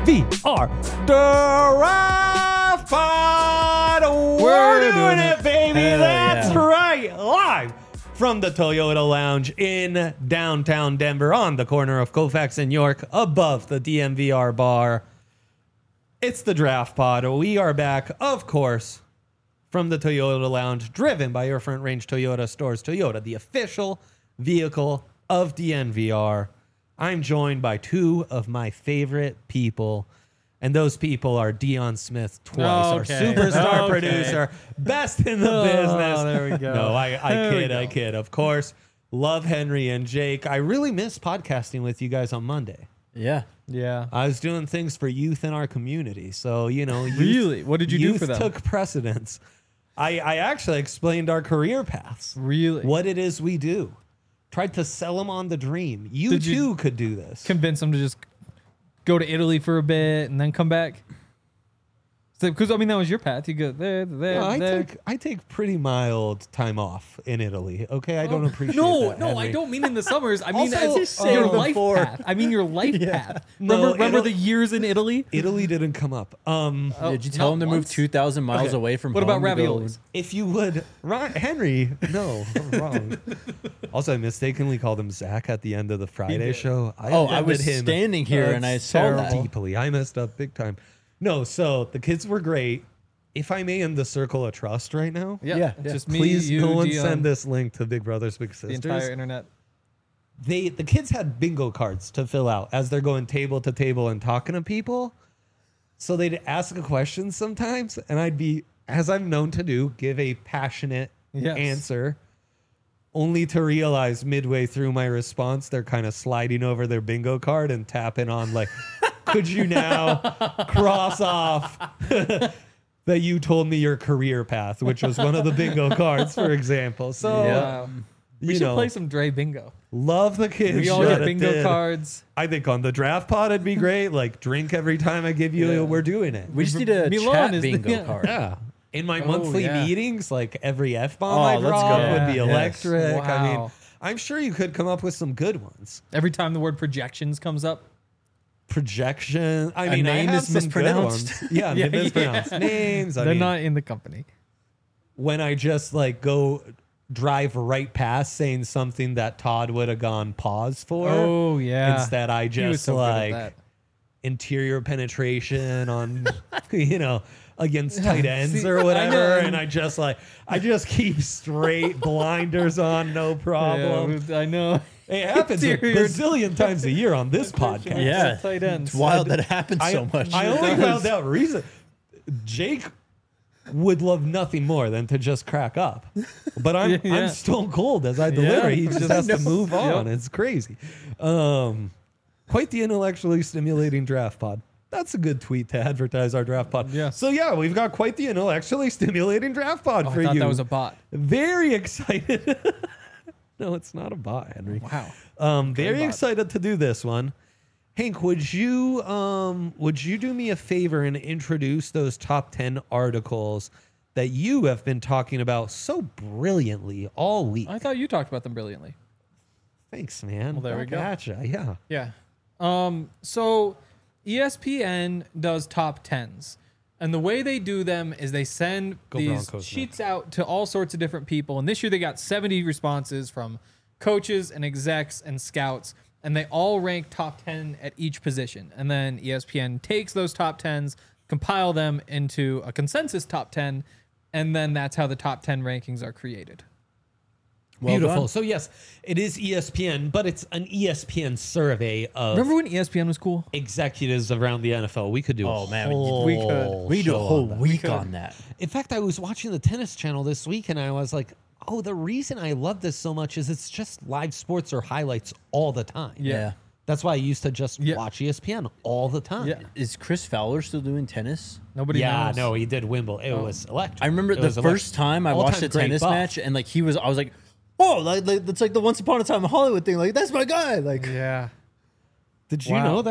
DNVR Draft Pod. We're doing it, baby. Hell That's yeah. right. Live from the Toyota Lounge in downtown Denver on the corner of Colfax and York above the DNVR bar. It's the Draft Pod. We are back, of course, from the Toyota Lounge, driven by your Front Range Toyota stores. Toyota, the official vehicle of DNVR. I'm joined by two of my favorite people, and those people are Dion Smith twice, our superstar producer, best in the business. There we go. No, I kid. Of course, love Henry and Jake. I really missed podcasting with you guys on Monday. Yeah. Yeah. I was doing things for youth in our community, so youth, Really? What did you do for them? Took precedence. I actually explained our career paths. Really? What it is we do. Tried to sell them on the dream. You Did you too could do this. Convince them to just go to Italy for a bit and then come back? Because, I mean, that was your path. You go there. I take pretty mild time off in Italy. Okay, I don't appreciate No, that. no, Henry. I don't mean in the summers. I mean Also, as say your the life four. path. I mean your life path. No, Remember the years in Italy? Italy didn't come up. Did you tell not him to move once? 2,000 miles Okay. away from What home? about to go- raviolis? If you would, Henry, no, I'm wrong. Also, I mistakenly called him Zach at the end of the Friday did. show. Oh, I was offended him standing here and I That's saw terrible. that. deeply. I messed up big time. No, so the kids were great. If I may, in the circle of trust right now, Yeah, It's yeah. just me, please you, no one Dion, send this link to Big Brothers Big the entire Sisters. internet. The kids had bingo cards to fill out as they're going table to table and talking to people. So they'd ask a question sometimes, and I'd be, as I'm known to do, give a passionate Yes. answer, only to realize midway through my response, they're kind of sliding over their bingo card and tapping on like, could you now cross off that you told me your career path, which was one of the bingo cards, for example. So, Wow. We you should know, play some Dre bingo. love the kids. We all shut get it bingo did. cards. I think on the draft pod it'd be great. Like drink every time I give you. Yeah. We're doing it. We just need a Milan chat is the- bingo yeah. card. Yeah. In my Oh, monthly yeah. meetings, like every F-bomb Oh, I let's drop go. would be Yes. electric. I mean, Wow. I'm sure you could come up with some good ones. Every time the word projections comes up. Projection. I A mean, I name have is some good mispronounced. ones. Yeah, Yeah, mispronounced names. I They're mean, not in the company. when I just like go drive right past saying something that Todd would have gone pause for. Oh, yeah. Instead, I He was just so good at like that. interior penetration on, against tight ends See, or I whatever. know. And I just keep straight blinders on, no problem. Yeah, I know. It happens a Interior- bazillion times a year on this podcast. Yeah. Tight ends. It's wild that it happens so much. I only found out reason. Jake would love nothing more than to just crack up, but I'm Yeah. stone cold as I deliver. Yeah. He just has to move on. It's crazy. Quite the intellectually stimulating draft pod. That's a good tweet to advertise our draft pod. Yeah. So yeah, we've got quite the intellectually stimulating draft pod Oh, for I thought you. that was a bot. Very excited. No, it's not a bot, Henry. Wow. Very bot. excited to do this one. Hank, would you do me a favor and introduce those top 10 articles that you have been talking about so brilliantly all week? I thought you talked about them brilliantly. Thanks, man. Well, there we Back go. at ya, yeah. Yeah. So ESPN does top 10s. And the way they do them is they send Go these Broncos, man. sheets out to all sorts of different people. And this year they got 70 responses from coaches and execs and scouts. And they all rank top 10 at each position. And then ESPN takes those top 10s, compile them into a consensus top 10. And then that's how the top 10 rankings are created. Well Beautiful. done. So yes, it is ESPN, but it's an ESPN survey of Remember when ESPN was cool? executives around the NFL. We could do Oh, a man, whole we could. We do a show whole on that. week on that. In fact, I was watching the Tennis Channel this week, and I was like, oh, the reason I love this so much is it's just live sports or highlights all the time. Yeah. That's why I used to just Yeah. watch ESPN all the time. Yeah. Is Chris Fowler still doing tennis? Nobody Yeah, knows. no, he did Wimbledon. It was electric. I remember It the was first time I All-time watched a great tennis buff. match, and like I was like, oh, like that's like the Once Upon a Time in Hollywood thing. Like that's my guy. Like Did Yeah. you Wow. know that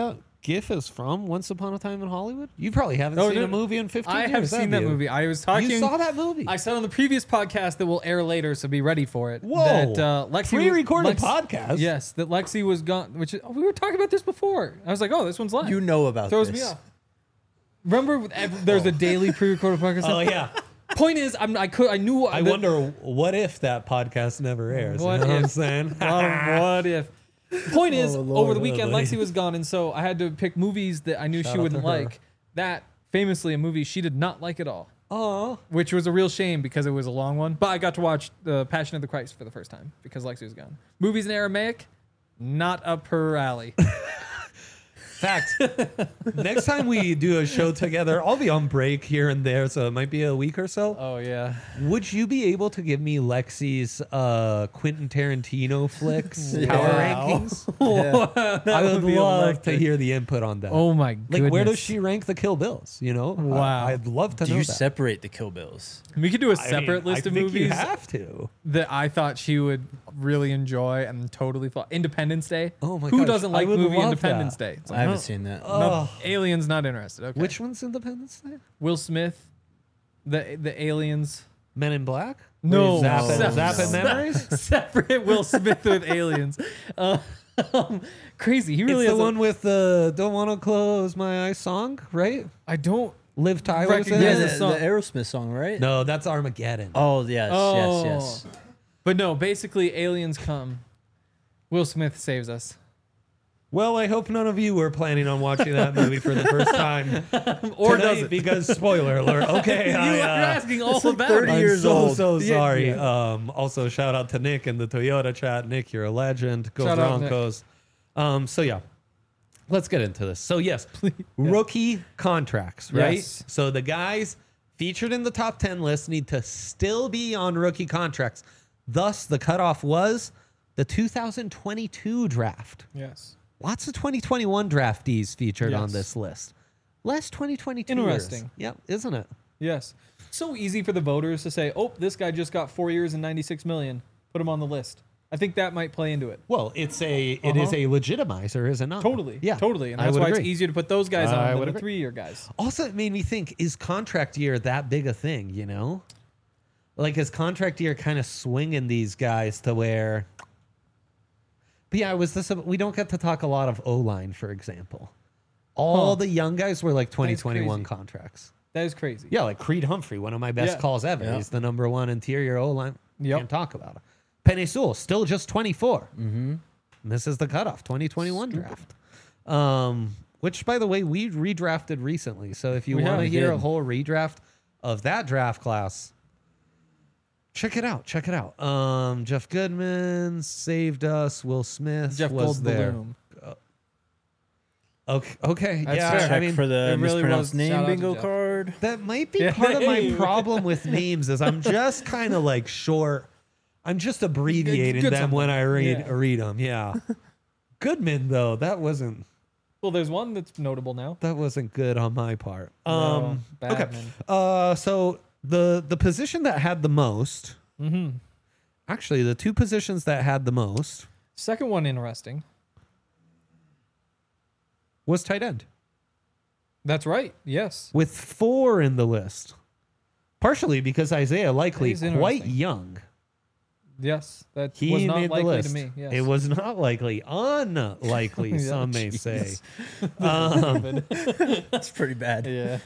GIF is from Once Upon a Time in Hollywood? You probably haven't Oh, seen no, a movie in 15 I years. have seen that you? movie. I was talking. You saw that movie? I said on the previous podcast that will air later, so be ready for it. Whoa. That Lexi Pre-recorded podcast? Yes, that Lexi was gone. Which we were talking about this before. I was like, oh, this one's live. You know about Throws this. me off. Remember, there's a daily pre-recorded podcast. Oh, yeah. Point is, I knew. I wonder what if that podcast never airs. What you know what I'm if? saying? A lot of what if. Point is, Oh, Lord. over the weekend, Oh, buddy. Lexi was gone, and so I had to pick movies that I knew Shout she out wouldn't to her. like. That famously a movie she did not like at all, Oh. which was a real shame because it was a long one. But I got to watch The Passion of the Christ for the first time because Lexi was gone. Movies in Aramaic, not up her alley. Fact. Next time we do a show together, I'll be on break here and there, so it might be a week or so. Oh yeah. Would you be able to give me Lexi's Quentin Tarantino flicks power Wow. rankings? Yeah. I would be love to electric. hear the input on that. Oh my goodness. like, where does she rank the Kill Bills? You know? Wow. I'd love to Do know you that. separate the Kill Bills? We could do a I mean, separate list I of think movies You have to. that I thought she would really enjoy and totally fall. Independence Day. Oh my Who gosh, doesn't I like would movie love Independence that. Day? It's I like, haven't no, seen that. Oh. Aliens not interested. Okay. Which one's Independence Day? Will Smith, the aliens. Men in Black? No, Zapping, no, zapping no. memories? Separate Will Smith with aliens. Crazy. He really It's has the one with the "Don't Want to Close My Eyes" song, right? I don't. Liv Tyler's in Recognize Yeah, it? the the song. Aerosmith song, right? No, that's Armageddon. Oh, yes, Oh. yes, But no, basically aliens come. Will Smith saves us. Well, I hope none of you were planning on watching that movie for the first time Or tonight, doesn't. because spoiler alert. Okay, You're asking all like about 30 it. years I'm old. so Yeah, sorry. yeah. Also, shout out to Nick in the Toyota chat. Nick, you're a legend. Go Shout out, Nick. Broncos. So yeah, let's get into this. So yes, rookie contracts, right? Yes. So the guys featured in the top 10 list need to still be on rookie contracts. Thus, the cutoff was the 2022 draft. Yes. Lots of 2021 draftees featured on Yes. this list. Less 2022. Interesting. Yep, isn't it? Yes. So easy for the voters to say, "Oh, this guy just got 4 years and 96 million. Put him on the list." I think that might play into it. Well, it is a legitimizer, is it not? Totally. Yeah, Totally. And I that's would why agree. it's easier to put those guys I on would than the agree. 3-year guys. Also, it made me think: is contract year that big a thing? You know, like is contract year kind of swinging these guys to where? But yeah, we don't get to talk a lot of O-line, for example. All the young guys were like 2021 crazy. contracts. That is crazy. Yeah, like Creed Humphrey, one of my best Yeah. calls ever. Yeah. He's the number one interior O-line. Yep. Can't talk about it. Penny Sewell, still just 24. Mm-hmm. And this is the cutoff, 2021 draft. Which, by the way, we redrafted recently. So if you We want to have. hear a did. whole redraft of that draft class, check it out. Check it out. Jeff Goodman saved us. Will Smith Jeff was there. Goldblum. Okay. That's Yeah. fair. I Check mean, for the it really mispronounced was. Shout name out to bingo Jeff. card. that might be Yeah. part of my Hey. problem with names is I'm just kind of like short. I'm just abbreviating Good them when I something. read them. Yeah. Goodman though, that wasn't Well, there's one that's notable now. good on my part. No, Okay. Batman. So the position that had the most, Mm-hmm. actually the two positions that had the most Second one interesting. was tight end That's right. Yes. with 4 in the list. Partially because Isaiah Likely That is quite interesting. young. Yes. That He was not made the likely list. to me. Yes. It was not likely, unlikely, Yeah, some may jeez. say. That's pretty bad. Yeah.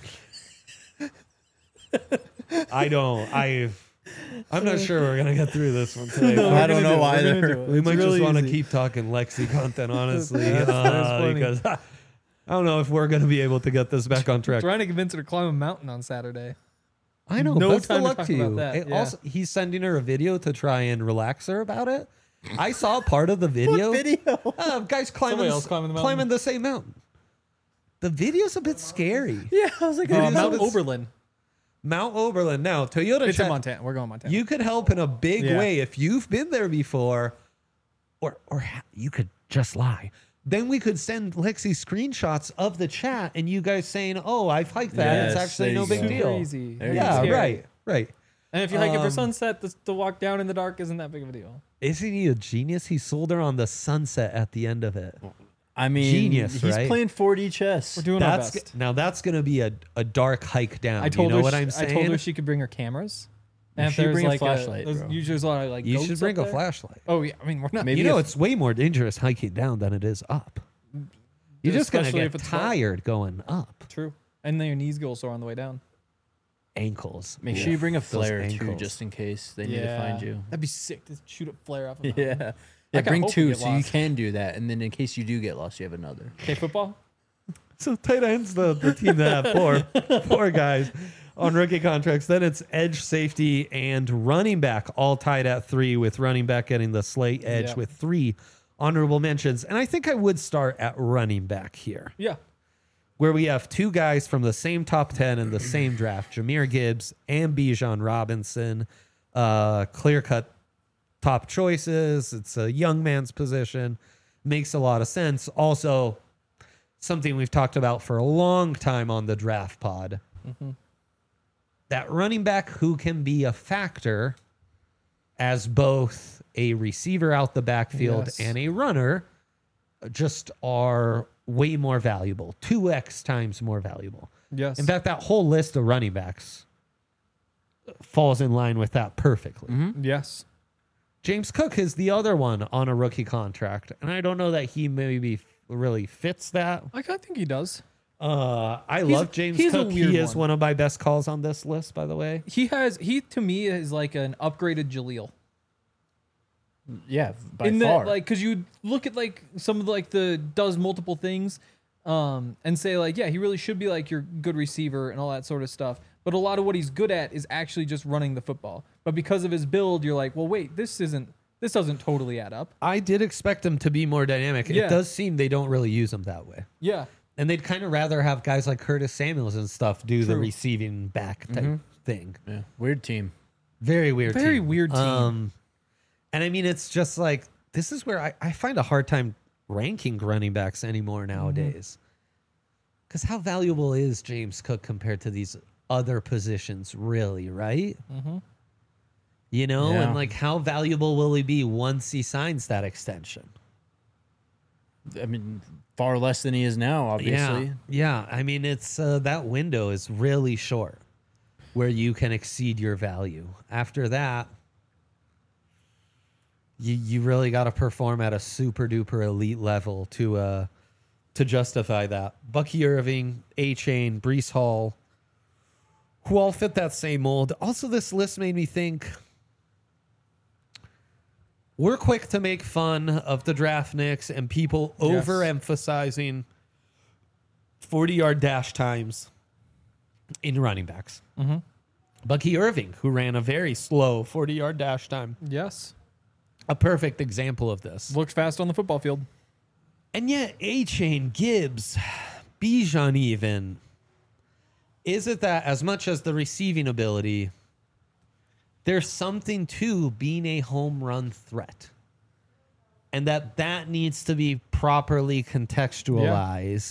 I'm not sure we're gonna get through this one today. No, I we're don't gonna know do it. We're either. gonna do it. We It's might really just want to easy. keep talking Lexi content, honestly, That's funny. because I don't know if we're gonna be able to get this back on track. Trying to convince her to climb a mountain on Saturday. I know. No Best time of to luck talk to you. about that, It yeah. Also, he's sending her a video to try and relax her about it. I saw part of the video. What video? Guys Somebody else climbing the mountain. climbing the same mountain. The video's a bit scary. Yeah, I was like, It is Mount a bit- Oberlin. Mount Oberlin. Now, Toyota It's in chat, Montana. We're going Montana. you could help in a big Yeah. way if you've been there before, or you could just lie. Then we could send Lexi screenshots of the chat and you guys saying, "Oh, I've hiked that. Yes, it's actually there no you big go. deal." Super easy. There you Yeah, go. right. And if you hike it for Um, sunset, the walk down in the dark isn't that big of a deal. Isn't he a genius? He sold her on the sunset at the end of it. I mean, Genius, he's right? playing 4D chess. We're doing our That's best. now that's going to be a dark hike down. I told you know her what I'm saying? I told her she could bring her cameras. And if She there's bring a like flashlight, there's bro. usually there's a lot of like you goats should bring up a there. flashlight. Oh yeah, I mean we're not. Maybe You know, if- it's way more dangerous hiking down than it is up. You're just going to Especially get if it's wet. tired going up. True. And then your knees go sore on the way down. Ankles. Make sure you bring a Those flare too, ankles. just in case they need to find you. That'd be sick to shoot a flare off. Of Yeah. I Yeah, kinda bring hope we two get so you lost. can do that. And then in case you do get lost, you have another. Okay, football. So tight ends, the team that have four guys on rookie contracts. Then it's edge, safety, and running back, all tied at 3, with running back getting the slight edge Yeah. with 3 honorable mentions. And I think I would start at running back here, Yeah. where we have 2 guys from the same top 10 in the same draft, Jahmyr Gibbs and Bijan Robinson. Clear-cut top choices. It's a young man's position. Makes a lot of sense. Also, something we've talked about for a long time on the draft pod. That running back who can be a factor as both a receiver out the backfield Yes. and a runner just are way more valuable, 2x times more valuable. Yes. In fact, that whole list of running backs falls in line with that perfectly. Yes. James Cook is the other one on a rookie contract, and I don't know that he maybe really fits that. I think he does. I love James he's a Cook. weird He is one. one of my best calls on this list, by the way. He to me is like an upgraded Jaleel. Yeah, by In far. that, like, because you look at like some of like the does multiple things, and say like, yeah, he really should be like your good receiver and all that sort of stuff. But a lot of what he's good at is actually just running the football. But because of his build, you're like, well, wait, this doesn't totally add up. I did expect him to be more dynamic. Yeah. It does seem they don't really use him that way. Yeah. And they'd kind of rather have guys like Curtis Samuels and stuff do the True. receiving back type thing. yeah, weird team. Very weird Very team. weird team. And I mean, it's just like, this is where I find a hard time ranking running backs anymore nowadays. Because how valuable is James Cook compared to these other positions, really, right? You know, Yeah. and like, how valuable will he be once he signs that extension? I mean, far less than he is now, obviously. Yeah. I mean, it's that window is really short where you can exceed your value. After that, you really got to perform at a super duper elite level to justify that. Bucky Irving, A-Chain, Brees Hall, who all fit that same mold. Also, this list made me think we're quick to make fun of the draft nicks and people Yes. overemphasizing 40-yard dash times in running backs. Bucky Irving, who ran a very slow 40-yard dash time, Yes. a perfect example of this. Looked fast on the football field. And yet, A-Chain, Gibbs, Bijan even, is it that as much as the receiving ability, there's something to being a home run threat? And that needs to be properly contextualized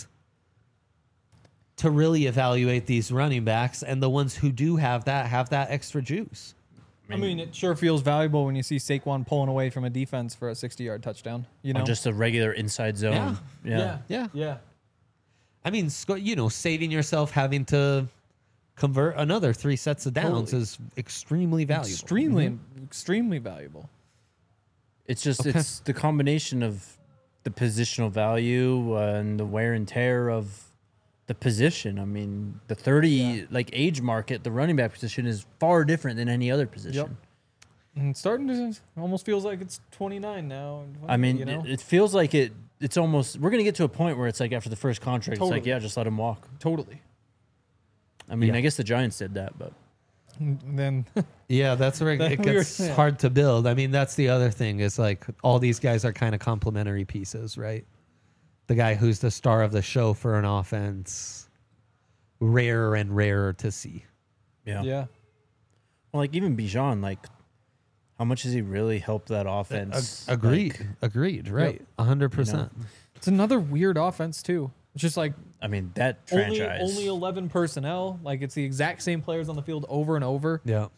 to really evaluate these running backs, and the ones who do have that extra juice. I mean, it sure feels valuable when you see Saquon pulling away from a defense for a 60-yard touchdown. You know, On just a regular inside zone. Yeah. Yeah. I mean, saving yourself having to convert another 3 sets of downs Totally. is extremely valuable. extremely valuable. It's just it's the combination of the positional value and the wear and tear of the position. I mean, the 30 age market, the running back position is far different than any other position. And starting to almost feels like it's 29 now. I mean, you know? it feels like it's almost we're going to get to a point where it's like after the first contract, it's like, Totally. yeah, just let him walk. Totally. I mean, Yeah. I guess the Giants did that, but And then Yeah, that's where it We were- gets yeah. hard to build. I mean, that's the other thing is like all these guys are kind of complementary pieces, right? The guy who's the star of the show for an offense, rarer and rarer to see. yeah. yeah. Well, like even Bijan, like how much has he really helped that offense? Agreed. Like, Agreed. Right. 100%. It's another weird offense too. It's just like I mean, that only franchise. 11 personnel. Like it's the exact same players on the field over and over. Yeah.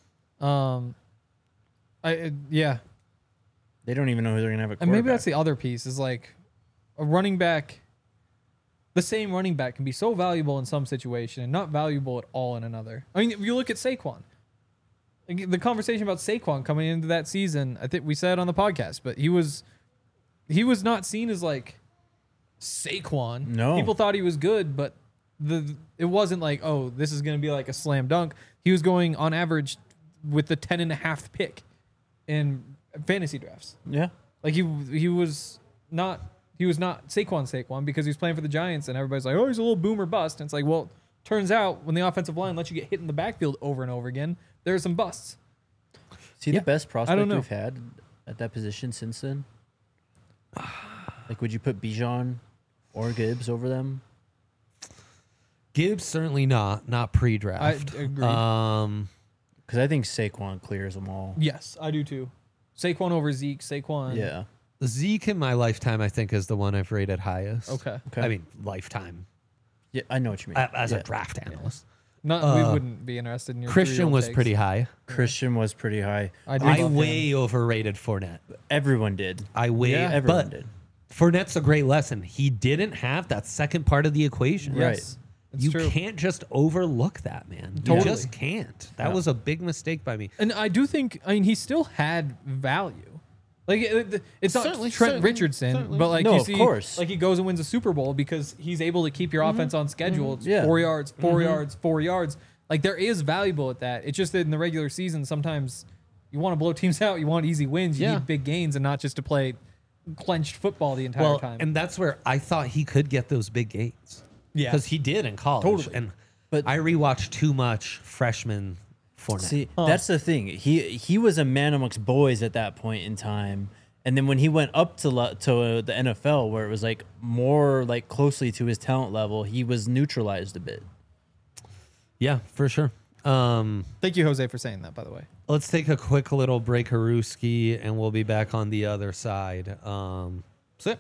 Yeah. They don't even know who they're gonna have at And maybe quarterback. that's the other piece is like a running back, the same running back can be so valuable in some situation and not valuable at all in another. I mean, if you look at Saquon. The conversation about Saquon coming into that season, I think we said it on the podcast, but he was not seen as like Saquon. No. People thought he was good, but it wasn't like, oh, this is going to be like a slam dunk. He was going on average with the 10.5 pick in fantasy drafts. Yeah. Like he was not Saquon because he was playing for the Giants, and everybody's like, oh, he's a little boomer bust. And it's like, well, turns out when the offensive line lets you get hit in the backfield over and over again, there are some busts. See the best prospect know. we've had at that position since then? Like, would you put Bijan or Gibbs over them? Gibbs certainly not pre-draft. I agree. Because I think Saquon clears them all. Yes, I do too. Saquon over Zeke. Saquon. Yeah. Zeke in my lifetime, I think, is the one I've rated highest. Okay. Okay. I mean, lifetime Yeah, I know what you mean. as a draft analyst. We wouldn't be interested in your Christian three-year-old was takes. pretty high. Christian was pretty high. I I love way him. overrated Fournette. Everyone did. Yeah. Everyone did. Fournette's a great lesson. He didn't have that second part of the equation. Yes, it's You true. can't just overlook that, man. You Totally. just can't. That was a big mistake by me. And I do think, I mean, he still had value. Like it's not Certainly, Trent certainly, Richardson, certainly. but like No, you of see, course. like he goes and wins a Super Bowl because he's able to keep your offense on schedule. It's Yeah. 4 yards, 4 yards, 4 yards. Like there is valuable at that. It's just that in the regular season, sometimes you want to blow teams out. You want easy wins. You Yeah. need big gains and not just to play clenched football the entire time. And that's where I thought he could get those big gains. Yeah. Because he did in college. Totally. And But- I rewatched too much freshman Fournette. See, that's the thing. He was a man amongst boys at that point in time. And then when he went up to the NFL, where it was like more like closely to his talent level, he was neutralized a bit. Yeah, for sure. Thank you, Jose, for saying that, by the way. Let's take a quick little break, Haruski, and we'll be back on the other side. Sit.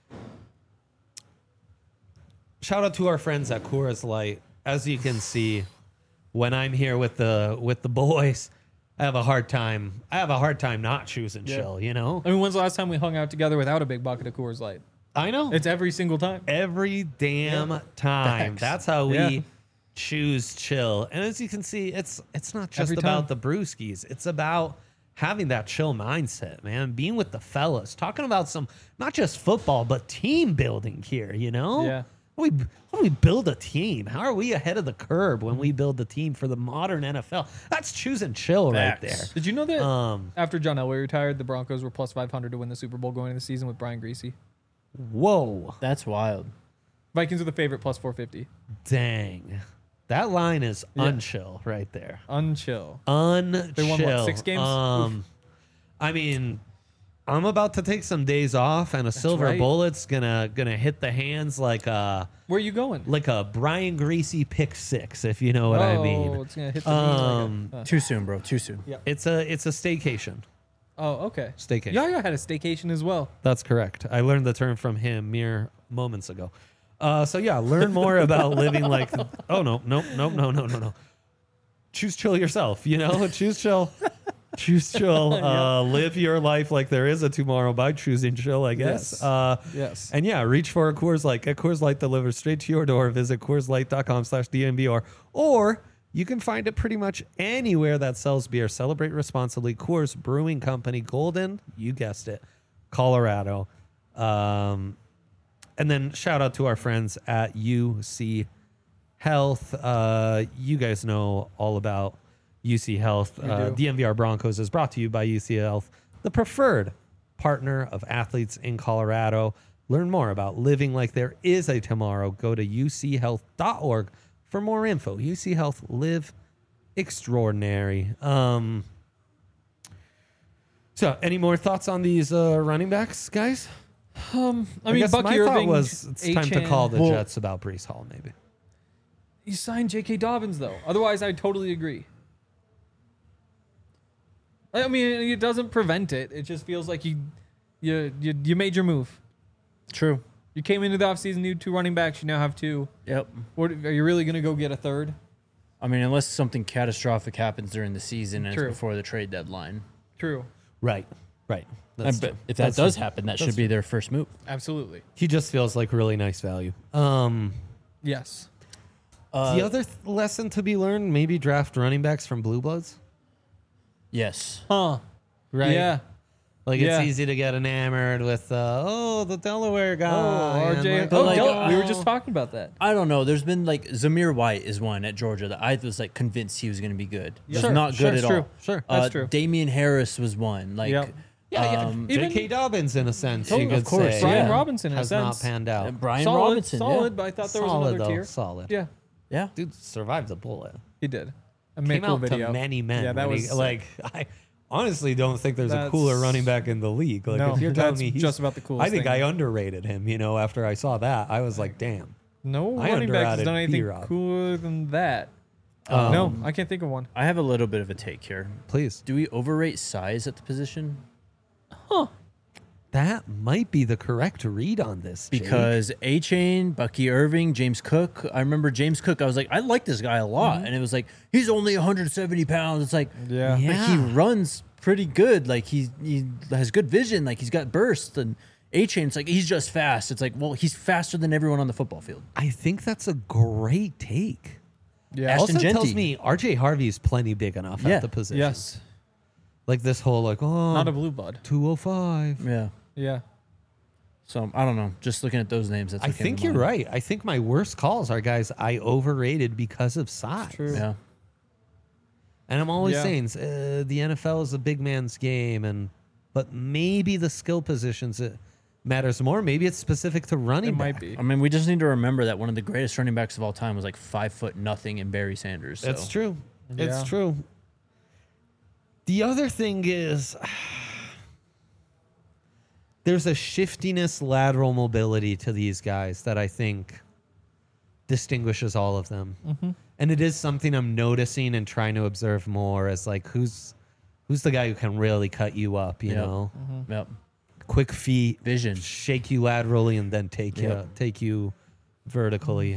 Shout out to our friends at Coors Light. As you can see, when I'm here with the boys, I have a hard time not choosing chill. You know, I mean, when's the last time we hung out together without a big bucket of Coors Light? I know It's every single time. every damn time. Facts. That's how we Yeah. choose chill. And as you can see, it's not just Every about time. the brewskis. It's about having that chill mindset, man. Being with the fellas, talking about some not just football but team building here. You know, Yeah. How do we build a team? How are we ahead of the curve when we build the team for the modern NFL? That's choosing chill right there. Facts. Did you know that Um, after John Elway retired, the Broncos were plus 500 to win the Super Bowl going into the season with Brian Greasy? Whoa, That's wild. Vikings are the favorite plus 450. dang, that line is Yeah. unchill right there. Unchill. Unchill. They won, what, 6 games? Oof. I mean, I'm about to take some days off, and a silver right. bullet's gonna hit the hands like a Where are you going? Brian Greasy pick six, if you know what I mean. It's going to hit the knee like a- Too soon, bro. Too soon. Yeah. It's a staycation. Oh, okay. Staycation. Yaya had a staycation as well. That's correct. I learned the term from him mere moments ago. So yeah, learn more about living like. Oh no. Choose chill yourself. You know, choose chill. Choose chill. Live your life like there is a tomorrow by choosing chill, I guess. Yes. Yes. And yeah, reach for a Coors Light. Get Coors Light delivered straight to your door. Visit CoorsLight.com/DNVR. Or you can find it pretty much anywhere that sells beer. Celebrate responsibly. Coors Brewing Company, Golden, you guessed it, Colorado. And then shout out to our friends at UC Health. You guys know all about UC Health. do. DNVR Broncos is brought to you by UC Health, the preferred partner of athletes in Colorado. Learn more about living like there is a tomorrow. Go to uchealth.org for more info. UC Health, live extraordinary. So, any more thoughts on these running backs, guys? I mean, guess Bucky my thought Irving was it's time to Achane. call the Well- Jets about Breece Hall, maybe. You signed J.K. Dobbins, though. Otherwise, I totally agree. I mean, it doesn't prevent it. It just feels like you made your move. True. You came into the offseason, you had 2 running backs. You now have 2. Yep. What, are you really going to go get a third? I mean, unless something catastrophic happens during the season and True. it's before the trade deadline. True. Right. Right. And That's but true. if that That's does true. happen, that That's should be their first move. Absolutely. He just feels like really nice value. Yes. The other lesson to be learned, maybe draft running backs from Blue Bloods. Yes. Huh. Right. Yeah. Like Yeah. it's easy to get enamored with, the Delaware guy. Oh, and RJ. like, But like, we were just talking about that. I don't know. There's been like Zamir White is one at Georgia that I was like convinced he was going to be good. Was Sure, not sure, good it's at true. all. Sure, that's true. Damian Harris was one. Like, Yep. Yeah, Even- J.K. Dobbins in a sense. Totally, you could of course, say, Brian yeah. Robinson in a has sense. not panned out. Brian solid, Robinson. solid, but I thought there was solid another though, tier. solid. Yeah, Yeah. Dude survived the bullet. he did. A made Came cool out video. to many men. Yeah, that when was he, like I honestly don't think there's a That's- cooler running back in the league. Like No, if you're telling that's me he's just about the coolest I think thing. I underrated him. After I saw that, I was like, damn. No I running back has underrated done anything B-Rob. cooler than that. No, I can't think of one. I have a little bit of a take here. Please. Do we overrate size at the position? That might be the correct read on this. Jake. Because A-Chain, Bucky Irving, James Cook. I remember James Cook. I was like, I like this guy a lot. And it was like, he's only 170 pounds. It's like, Yeah. like he runs pretty good. Like he has good vision. Like he's got bursts. And A-Chain, it's like, he's just fast. It's like, well, he's faster than everyone on the football field. I think that's a great take. Yeah. Ashton Also tells Genty. me RJ Harvey is plenty big enough Yeah. at the position. Yes. Like this whole Not a blue blood. 205. Yeah. Yeah. So I don't know. Just looking at those names, that's I what came think to you're mind. right. I think my worst calls are guys I overrated because of size. True. Yeah. And I'm always Yeah. saying the NFL is a big man's game, but maybe the skill positions it matters more. Maybe it's specific to running It back. might be. I mean, we just need to remember that one of the greatest running backs of all time was like 5'0" in Barry Sanders. So. That's true. It's Yeah. true. The other thing is there's a shiftiness, lateral mobility to these guys that I think distinguishes all of them. And it is something I'm noticing and trying to observe more as like who's the guy who can really cut you up, you Yep. know? Yep. Quick feet, Vision. shake you laterally and then take you vertically.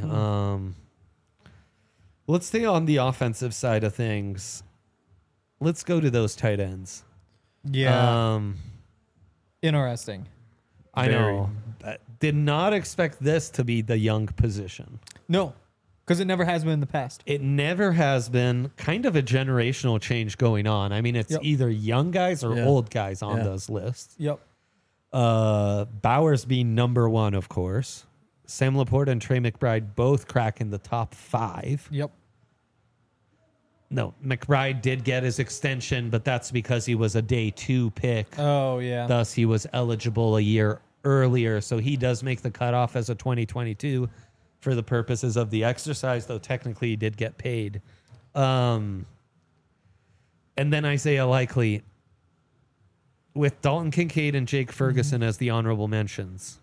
Let's stay on the offensive side of things. Let's go to those tight ends. Yeah. Interesting. I Very. know. Did not expect this to be the young position. No, because it never has been in the past. It never has been. Kind of a generational change going on. I mean, it's Yep. either young guys or Yeah. old guys on Yeah. those lists. Yep. Bowers being number one, of course. Sam Laporta and Trey McBride both cracking the top 5. Yep. No, McBride did get his extension, but that's because he was a day 2 pick. Oh yeah. Thus, he was eligible a year earlier. So he does make the cutoff as a 2022 for the purposes of the exercise, though technically he did get paid. And then Isaiah Likely with Dalton Kincaid and Jake Ferguson as the honorable mentions.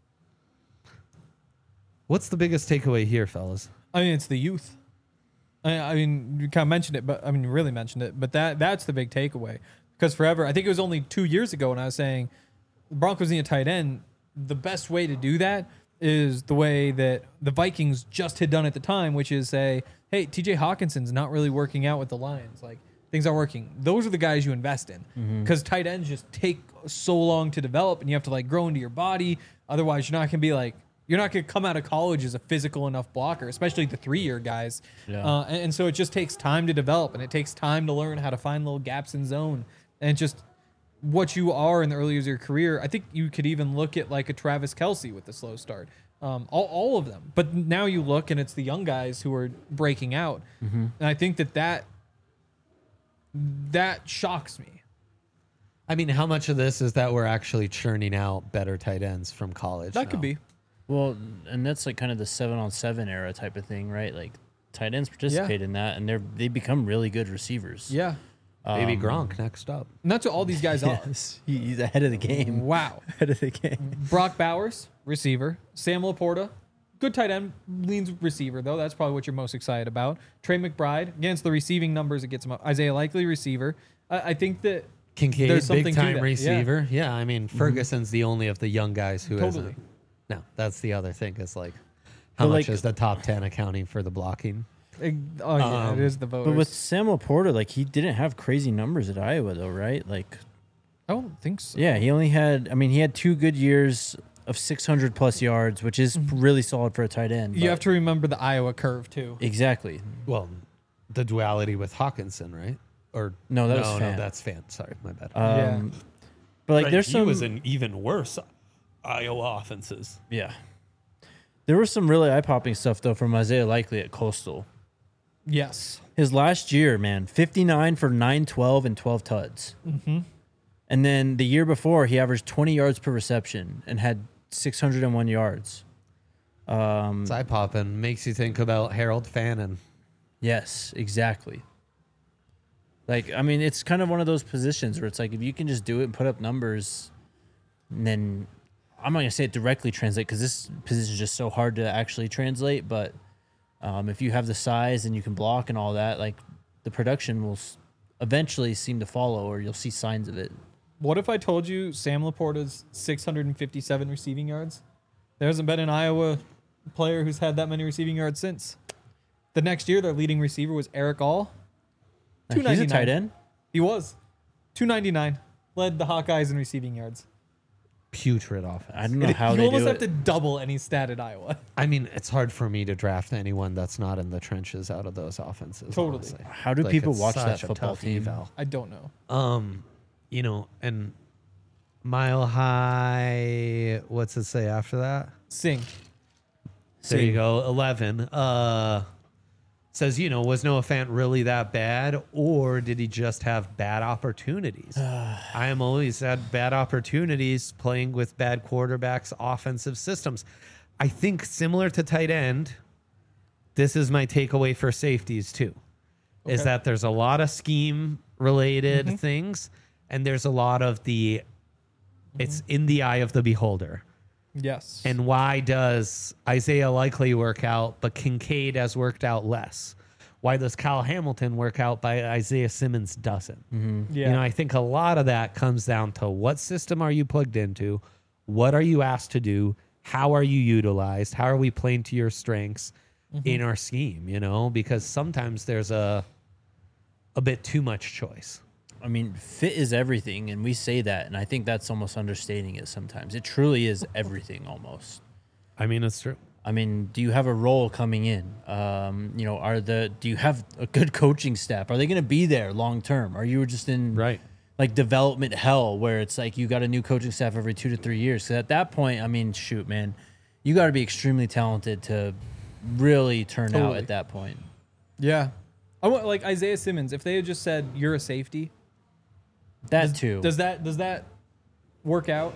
What's the biggest takeaway here, fellas? I mean, it's the youth. I mean, you kind of mentioned it, but I mean, you really mentioned it. But that's the big takeaway. Because forever, I think it was only 2 years ago when I was saying the Broncos need a tight end. The best way to do that is the way that the Vikings just had done at the time, which is say, hey, TJ Hawkinson's not really working out with the Lions. Like, things aren't working. Those are the guys you invest in. Because tight ends just take so long to develop and you have to like grow into your body. Otherwise, you're not going to be like, you're not going to come out of college as a physical enough blocker, especially the 3-year guys. Yeah. And so it just takes time to develop and it takes time to learn how to find little gaps in zone. And just what you are in the early years of your career, I think you could even look at like a Travis Kelce with the slow start. All of them. But now you look and it's the young guys who are breaking out. And I think that shocks me. I mean, how much of this is that we're actually churning out better tight ends from college? That could now? be. Well, and that's like kind of the 7-on-7 era type of thing, right? Like tight ends participate in that, and they become really good receivers. Yeah. Maybe Gronk next up. And that's what all these guys are. Yes, he's ahead of the game. Wow. Ahead of the game. Brock Bowers, receiver. Sam Laporta, good tight end, leans receiver, though. That's probably what you're most excited about. Trey McBride, against the receiving numbers, it gets him up. Isaiah Likely, receiver. I think that Kincaid, there's something big to time that. receiver. Yeah, I mean, Ferguson's the only of the young guys who Totally. isn't. No, that's the other thing is like, how But, much like- is the top 10 accounting for the blocking? it is the voters. But with Sam Laporta, like he didn't have crazy numbers at Iowa, though, right? Like, I don't think so. Yeah, he only had. I mean, he had 2 good years of 600 plus yards, which is really solid for a tight end. You but- have to remember the Iowa curve too. exactly. Well, the duality with Hawkinson, right? Or No, that was no, Fant. that's Fant. Sorry, my bad. Yeah. But like, Right, there's he some. was in even worse Iowa offenses. Yeah. There was some really eye popping stuff though from Isaiah Likely at Coastal. Yes. His last year, man, 59 for 912 and 12 tuds. Mm-hmm. And then the year before, he averaged 20 yards per reception and had 601 yards. It's eye popping. Makes you think about Harold Fannin. Yes, exactly. Like, I mean, it's kind of one of those positions where it's like, if you can just do it and put up numbers, and then I'm not going to say it directly translate because this position is just so hard to actually translate. But if you have the size and you can block and all that, like the production will eventually seem to follow, or you'll see signs of it. What if I told you Sam Laporta's 657 receiving yards? There hasn't been an Iowa player who's had that many receiving yards since. The next year, their leading receiver was Eric All. He's a 299. tight end. He was 299. Led the Hawkeyes in receiving yards. Putrid offense. I don't know how you they almost do have it. to double any stat at Iowa. I mean, it's hard for me to draft anyone that's not in the trenches out of those offenses. Totally. honestly. How do Like, people it's watch that such a football tough team? eval. I don't know. You know, and Mile High, what's it say after that? Sing. There you go. 11. Says, you know, was Noah Fant really that bad, or did he just have bad opportunities? I am always had bad opportunities playing with bad quarterbacks, offensive systems. I think similar to tight end, this is my takeaway for safeties too, is Okay. that there's a lot of scheme related things, and there's a lot of it's in the eye of the beholder. Yes. And why does Isaiah Likely work out, but Kincaid has worked out less? Why does Kyle Hamilton work out, but Isaiah Simmons doesn't? yeah. You know, I think a lot of that comes down to what system are you plugged into? What are you asked to do? How are you utilized? How are we playing to your strengths in our scheme? You know, because sometimes there's a bit too much choice. I mean, fit is everything, and we say that, and I think that's almost understating it sometimes. It truly is everything almost. I mean, it's true. I mean, do you have a role coming in? You know, do you have a good coaching staff? Are they going to be there long term? Are you just in like development hell where it's like you got a new coaching staff every 2 to 3 years? Because at that point, I mean, shoot, man, you got to be extremely talented to really turn out Totally. at that point. Yeah. I want like Isaiah Simmons. If they had just said you're a safety, That too. does that work out?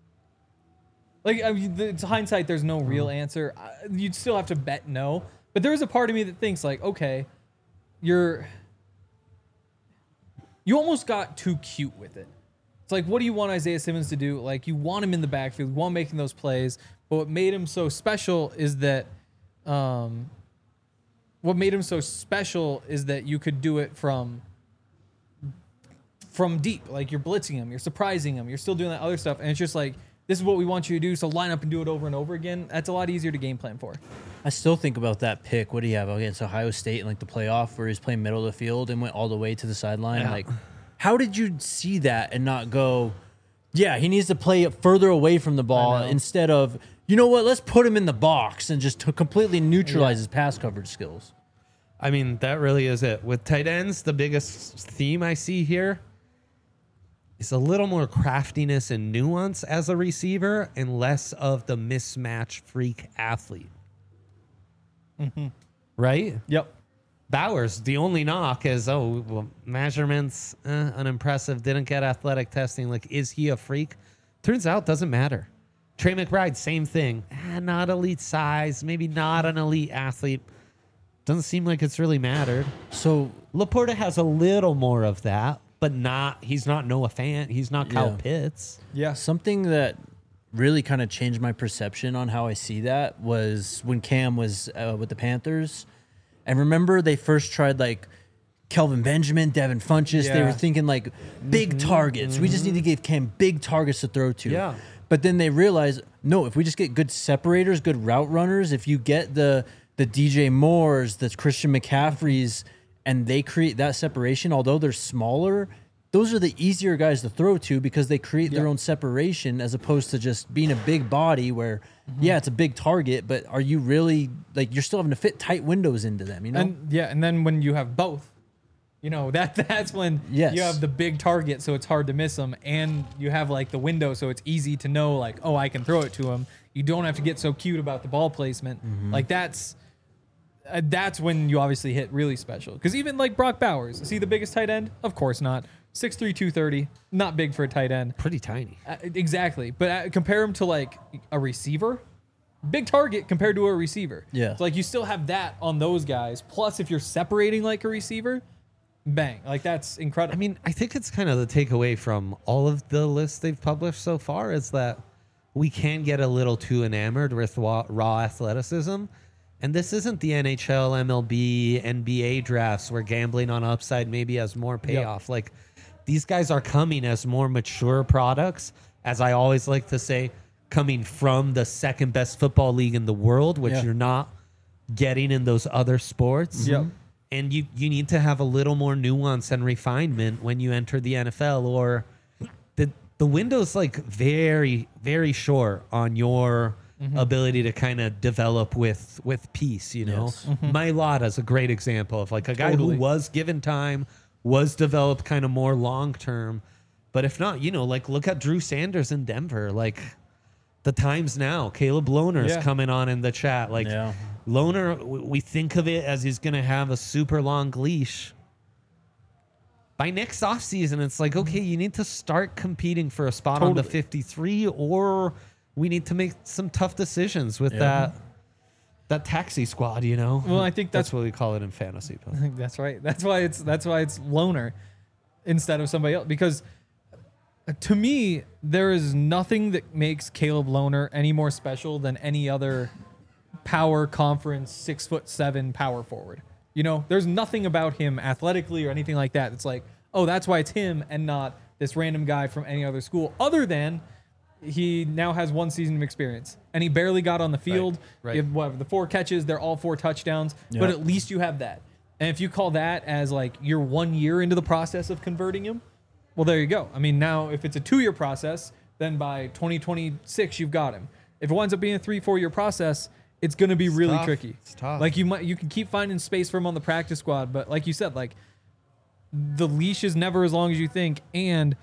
Like, I mean, it's hindsight. There's no real answer. You'd still have to bet no. But there is a part of me that thinks like, okay, you almost got too cute with it. It's like, what do you want Isaiah Simmons to do? Like, you want him in the backfield, you want him making those plays. But what made him so special is that, you could do it from deep. Like, you're blitzing him, you're surprising him, you're still doing that other stuff, and it's just like, this is what we want you to do, so line up and do it over and over again. That's a lot easier to game plan for. I still think about that pick. What do you have against Ohio State in like the playoff where he's playing middle of the field and went all the way to the sideline? Yeah. Like, how did you see that and not go, yeah, he needs to play further away from the ball instead of, you know what, let's put him in the box and just to completely neutralize his pass coverage skills. I mean, that really is it. With tight ends, the biggest theme I see here is a little more craftiness and nuance as a receiver and less of the mismatch freak athlete. Right? Yep. Bowers, the only knock is, measurements, unimpressive, didn't get athletic testing. Like, is he a freak? Turns out, doesn't matter. Trey McBride, same thing. Not elite size, maybe not an elite athlete. Doesn't seem like it's really mattered. So Laporta has a little more of that, but he's not Noah Fant. He's not Kyle Yeah. Pitts. Yeah. something that really kind of changed my perception on how I see that was when Cam was with the Panthers. And remember, they first tried like Kelvin Benjamin, Devin Funchess. They Yeah. were thinking like big targets. We just need to give Cam big targets to throw to. Yeah. But then they realized, no, if we just get good separators, good route runners, if you get the DJ Moores, the Christian McCaffreys, and they create that separation, although they're smaller, those are the easier guys to throw to because they create their own separation as opposed to just being a big body where, yeah, it's a big target, but are you really, like, you're still having to fit tight windows into them, you know? And then when you have both, you know, that's when Yes. you have the big target, so it's hard to miss them, and you have like the window, so it's easy to know, like, oh, I can throw it to him. You don't have to get so cute about the ball placement. Like that's when you obviously hit really special. Because even like Brock Bowers, is he the biggest tight end? Of course not. 6'3", 230, not big for a tight end. Pretty tiny. Exactly, but compare him to like a receiver. Big target compared to a receiver. Yeah. So like you still have that on those guys. Plus, if you're separating like a receiver, bang, like that's incredible. I mean, I think it's kind of the takeaway from all of the lists they've published so far is that we can get a little too enamored with raw athleticism. And this isn't the NHL, MLB, NBA drafts where gambling on upside maybe has more payoff. Like, these guys are coming as more mature products, as I always like to say, coming from the second best football league in the world, which you're not getting in those other sports. Yep. And you need to have a little more nuance and refinement when you enter the NFL, or the window's like very, very short on your ability to kind of develop with peace, you know? Yes. Mailata is a great example of like a guy Totally. who was given time, was developed kind of more long term. But if not, you know, like look at Drew Sanders in Denver. Like the times now, Caleb Lohner is coming on in the chat. Like Lohner, we think of it as he's going to have a super long leash. By next offseason, it's like, okay, you need to start competing for a spot on the 53, or we need to make some tough decisions with that taxi squad, you know? Well, I think that's what we call it in fantasy. I think that's right. That's why it's Loner instead of somebody else. Because to me, there is nothing that makes Caleb Loner any more special than any other power conference 6'7" power forward. You know, there's nothing about him athletically or anything like that. It's like, oh, that's why it's him and not this random guy from any other school, other than he now has 1 season of experience and he barely got on the field. Right. You have, whatever, the 4 catches, they're all 4 touchdowns, but at least you have that. And if you call that as like you're 1 year into the process of converting him, well, there you go. I mean, now if it's a 2-year process, then by 2026 you've got him. If it winds up being a 3-4 year process, it's going to be really tough. tricky. It's tough. Like you can keep finding space for him on the practice squad, but like you said, like the leash is never as long as you think, and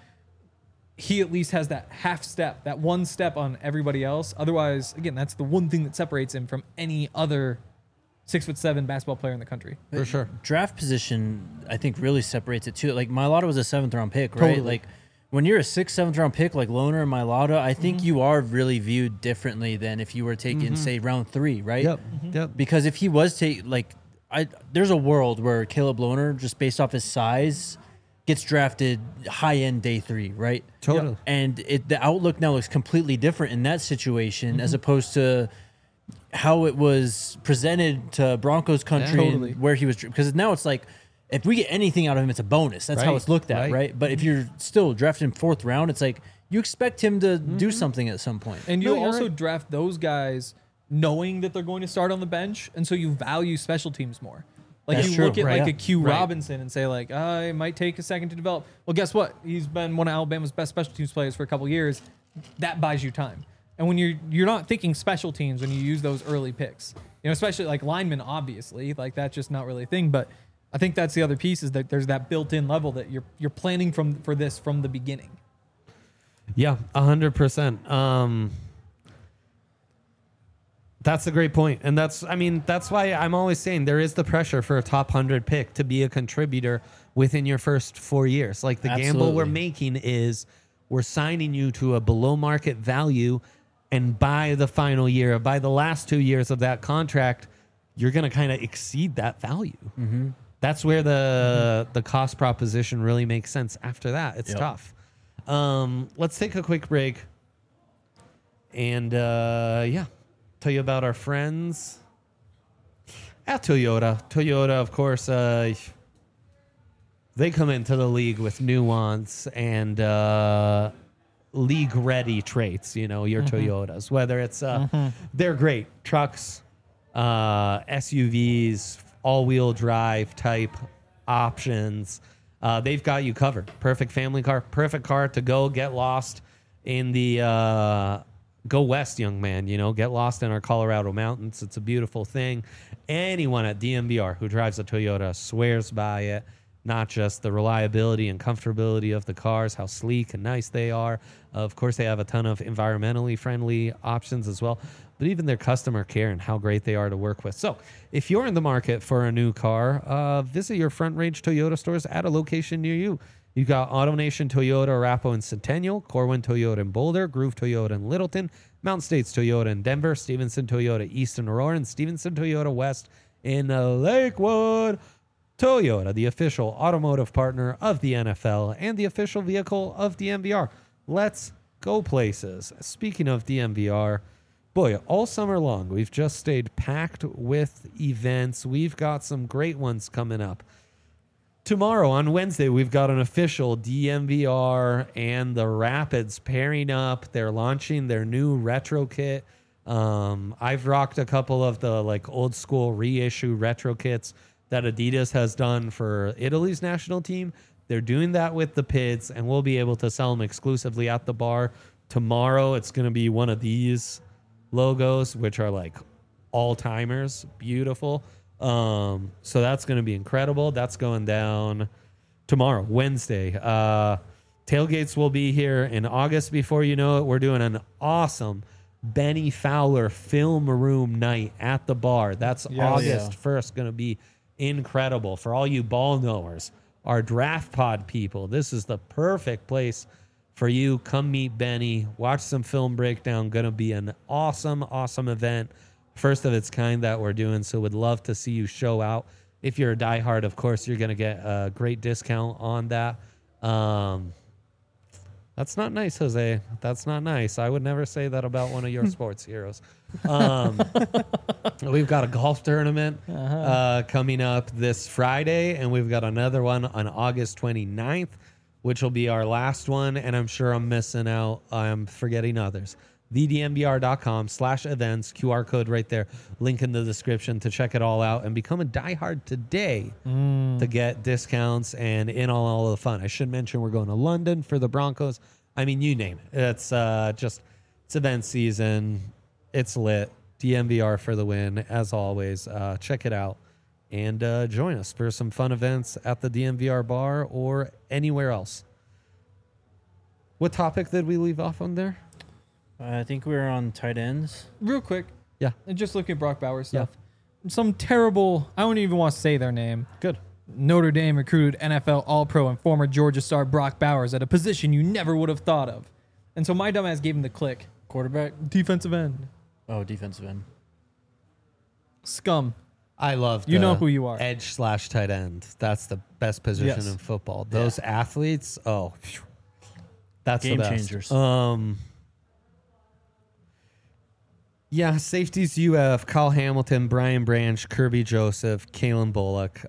he at least has that half step, that 1 step on everybody else. Otherwise, again, that's the one thing that separates him from any other 6'7" basketball player in the country. For sure. Draft position, I think, really separates it too. Like Mailata was a 7th round pick, right? Totally. Like when you're a 6th, 7th round pick like Loner and Mailata, I think you are really viewed differently than if you were taken, say, round 3, right? Yep. Because if he was there's a world where Caleb Loner, just based off his size, gets drafted high end day 3, right? Totally. And the outlook now looks completely different in that situation as opposed to how it was presented to Broncos country Totally. and where he was, because now it's like, if we get anything out of him, it's a bonus. That's how Right, it's looked at, right. right? But if you're still drafted in 4th round, it's like you expect him to do something at some point. And No, you you're also right. draft those guys knowing that they're going to start on the bench, and so you value special teams more. Like That's you true, look at right. like a Q Right. Robinson and say like, it might take a second to develop. Well, guess what? He's been one of Alabama's best special teams players for a couple years. That buys you time. And when you're not thinking special teams when you use those early picks, you know, especially like linemen, obviously, like that's just not really a thing. But I think that's the other piece is that there's that built-in level that you're planning for this from the beginning. Yeah, 100%. That's a great point. And that's why I'm always saying there is the pressure for a top 100 pick to be a contributor within your first 4 years. Like the gamble we're Absolutely. making is we're signing you to a below market value, and by the final year, by the last 2 years of that contract, you're going to kind of exceed that value. That's where the cost proposition really makes sense. After that, it's tough. Let's take a quick break and tell you about our friends at Toyota. Toyota, of course, they come into the league with nuance and league-ready traits, you know, your Toyotas. Whether it's, they're great. Trucks, SUVs, all-wheel drive type options. they've got you covered. Perfect family car, perfect car to go get lost in the go west, young man. Get lost in our Colorado mountains. It's a beautiful thing. Anyone at DMVR who drives a Toyota swears by it. Not just the reliability and comfortability of the cars, how sleek and nice they are. Of course, they have a ton of environmentally friendly options as well, but even their customer care and how great they are to work with. So if you're in the market for a new car, visit your Front Range Toyota stores at a location near you. You've got AutoNation Toyota, Arapahoe and Centennial, Corwin Toyota in Boulder, Groove Toyota in Littleton, Mountain States Toyota in Denver, Stevenson Toyota East in Aurora, and Stevenson Toyota West in Lakewood. Toyota, the official automotive partner of the NFL and the official vehicle of DMVR. Let's go places. Speaking of DMVR, boy, all summer long, we've just stayed packed with events. We've got some great ones coming up. Tomorrow, on Wednesday, we've got an official DMVR and the Rapids pairing up. They're launching their new retro kit. I've rocked a couple of the old school reissue retro kits that Adidas has done for Italy's national team. They're doing that with the PIDs, and we'll be able to sell them exclusively at the bar. Tomorrow, it's going to be one of these logos, which are all-timers. Beautiful. So that's going to be incredible. That's going down tomorrow, Wednesday. Tailgates will be here in August. Before you know it, we're doing an awesome Benny Fowler film room night at the bar. That's August 1st. Going to be incredible. For all you ball knowers, our draft pod people, this is the perfect place for you. Come meet Benny, watch some film breakdown. Gonna be an awesome event, first of its kind that we're doing, so would love to see you show out. If you're a diehard, of course you're gonna get a great discount on that. That's not nice, Jose. That's not nice. I would never say that about one of your sports heroes. We've got a golf tournament coming up this Friday, and we've got another one on August 29th, which will be our last one, and I'm sure I'm missing out. I'm forgetting others. thedmbr.com/events, QR code right there, link in the description to check it all out and become a diehard today to get discounts and in on all of the fun. I should mention we're going to London for the Broncos. I mean, you name it. It's it's event season. It's lit. DMVR for the win, as always. Check it out and join us for some fun events at the DMVR bar or anywhere else. What topic did we leave off on there? I think we were on tight ends. Real quick. Yeah. And just looking at Brock Bowers stuff. Some terrible, I don't even want to say their name. Good. Notre Dame recruited NFL All-Pro and former Georgia star Brock Bowers at a position you never would have thought of. And so my dumbass gave him the click. Quarterback? Defensive end. Oh, defensive end. Scum. I love You know who you are. Edge/tight end. That's the best position in football. Those athletes, that's Game the best. changers. Yeah, safeties you have Kyle Hamilton, Brian Branch, Kirby Joseph, Kalen Bullock.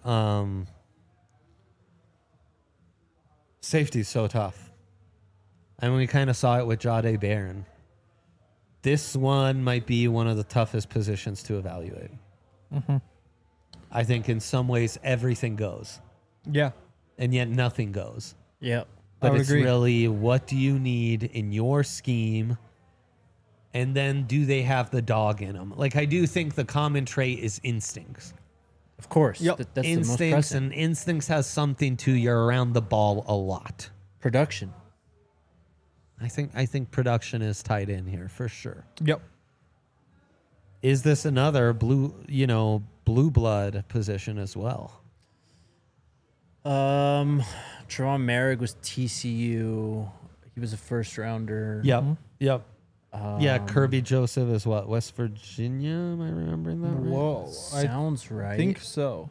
Safety's so tough. And we kind of saw it with Jahdae Barron. This one might be one of the toughest positions to evaluate. Mm-hmm. I think in some ways everything goes, Yeah. and yet nothing goes. Yep. But would it's agree. really, what do you need in your scheme? And then do they have the dog in them? I do think the common trait is instincts. Of course. Yep. That's the most Instincts, pressing. and instincts has something to you're around the ball a lot. Production. I think production is tied in here for sure. Yep. Is this another blue blood position as well? Trevon Merrick was TCU. He was a first rounder. Yep. Yep. Yeah, Kirby Joseph is what? West Virginia? Am I remembering that right? Whoa. Sounds right. I think so.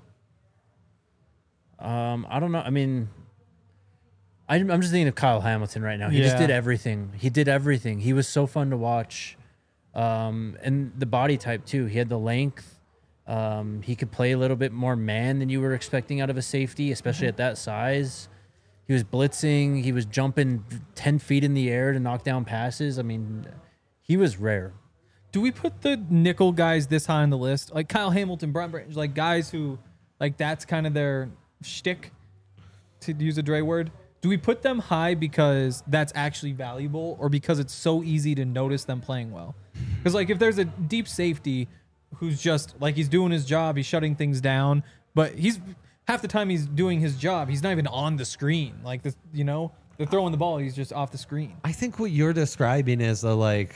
I don't know. I mean, I'm just thinking of Kyle Hamilton right now. He just Yeah. did everything. He did everything. He was so fun to watch. And the body type too. He had the length. He could play a little bit more man than you were expecting out of a safety, especially at that size. He was blitzing. He was jumping 10 feet in the air to knock down passes. I mean, he was rare. Do we put the nickel guys this high on the list? Like Kyle Hamilton, Brian Branch, guys who, that's kind of their shtick? to use a Dre word, do we put them high because that's actually valuable or because it's so easy to notice them playing well? Because like if there's a deep safety who's just like he's doing his job, he's shutting things down, but he's half the time he's doing his job, he's not even on the screen. Like this, you know, they're throwing the ball, he's just off the screen. I think what you're describing is the like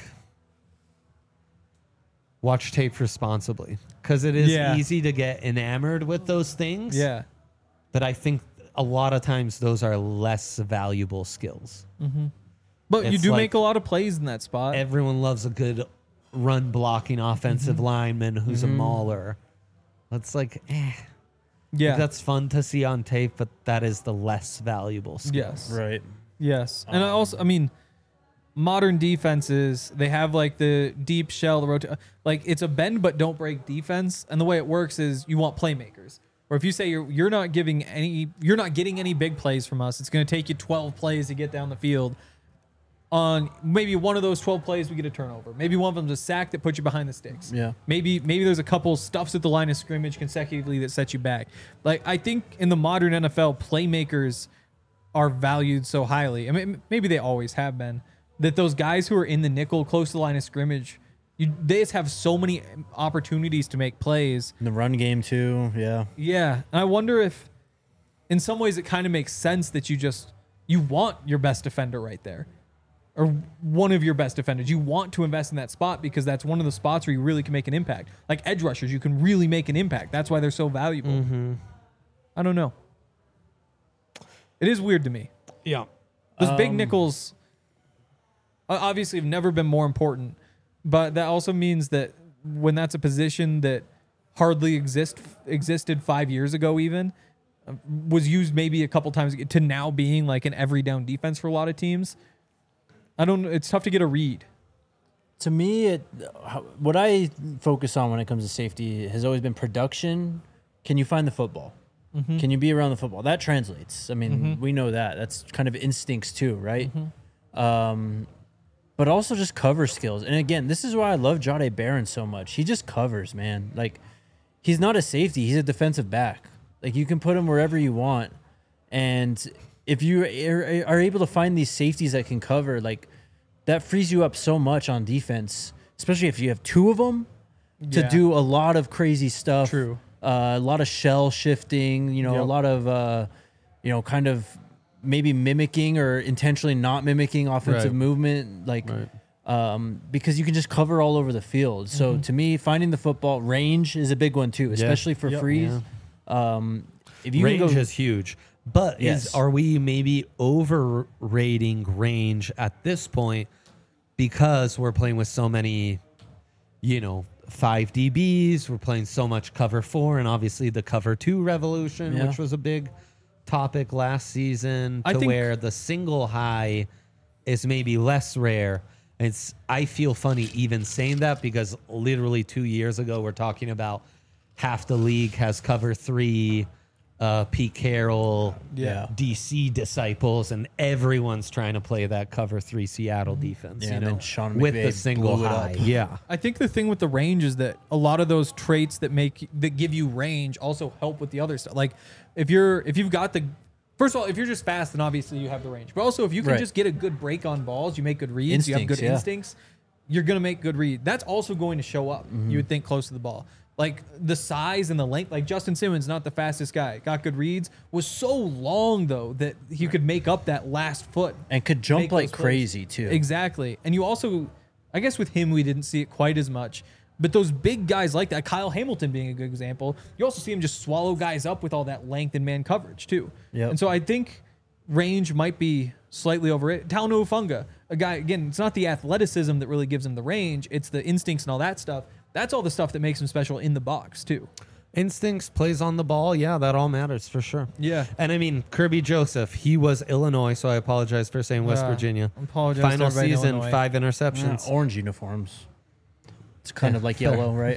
watch tape responsibly because it is easy to get enamored with those things. Yeah. But I think a lot of times those are less valuable skills. But you It's do like make a lot of plays in that spot. Everyone loves a good run blocking offensive lineman who's a mauler. That's like, Yeah. that's fun to see on tape, but that is the less valuable skill. Yes. Right. Yes. And I mean, modern defenses, they have like the deep shell, the like it's a bend but don't break defense. And the way it works is you want playmakers. Or if you say you're not getting any big plays from us, it's going to take you 12 plays to get down the field. On maybe one of those 12 plays, we get a turnover. Maybe one of them's a sack that puts you behind the sticks. Yeah. Maybe there's a couple stuffs at the line of scrimmage consecutively that set you back. Like I think in the modern NFL, playmakers are valued so highly. I mean, maybe they always have been. That those guys who are in the nickel close to the line of scrimmage, they just have so many opportunities to make plays. In the run game too. Yeah. Yeah, and I wonder if, in some ways, it kind of makes sense that you want your best defender right there, or one of your best defenders. You want to invest in that spot because that's one of the spots where you really can make an impact. Like edge rushers, you can really make an impact. That's why they're so valuable. I don't know. It is weird to me. Yeah. Those big nickels obviously have never been more important, but that also means that when that's a position that hardly existed 5 years ago even, was used maybe a couple times to now being like an every down defense for a lot of teams. I don't know. It's tough to get a read. To me, what I focus on when it comes to safety has always been production. Can you find the football? Can you be around the football? That translates. I mean, we know that. That's kind of instincts too, right? But also just cover skills. And again, this is why I love Jahdae Barron so much. He just covers, man. Like, he's not a safety. He's a defensive back. Like, you can put him wherever you want. And if you are able to find these safeties that can cover, like, that frees you up so much on defense, especially if you have two of them to do a lot of crazy stuff. True. A lot of shell shifting, a lot of, kind of maybe mimicking or intentionally not mimicking offensive movement, like, because you can just cover all over the field. So to me, finding the football range is a big one too, especially for freeze. If you range can go, is huge, but are we maybe overrating range at this point because we're playing with so many, 5 DBs, we're playing so much cover 4 and obviously the cover 2 revolution, which was a big topic last season, where the single high is maybe less rare. I feel funny even saying that because literally 2 years ago we're talking about half the league has cover 3, Pete Carroll, DC disciples, and everyone's trying to play that cover 3 Seattle defense. and then Sean with McVay the single blew it high. up. Yeah. I think the thing with the range is that a lot of those traits that give you range also help with the other stuff. Like if you've got first of all, if you're just fast, then obviously you have the range. But also if you can just get a good break on balls, you make good reads, you have good instincts, you're going to make good reads. That's also going to show up, you would think, close to the ball. Like the size and the length, like Justin Simmons, not the fastest guy, got good reads, was so long though that he could make up that last foot. And could jump like crazy too. Exactly. And you also, I guess with him, we didn't see it quite as much. But those big guys like that, Kyle Hamilton being a good example, you also see him just swallow guys up with all that length and man coverage too. Yep. And so I think range might be slightly over it. Talanoa Hufanga, a guy, again, it's not the athleticism that really gives him the range, it's the instincts and all that stuff. That's all the stuff that makes him special in the box too. Instincts, plays on the ball. Yeah, that all matters for sure. Yeah. And I mean, Kirby Joseph, he was Illinois, so I apologize for saying West Virginia. I apologize Final to everybody in season, Illinois. 5 interceptions. Orange uniforms. It's kind of like yellow, right?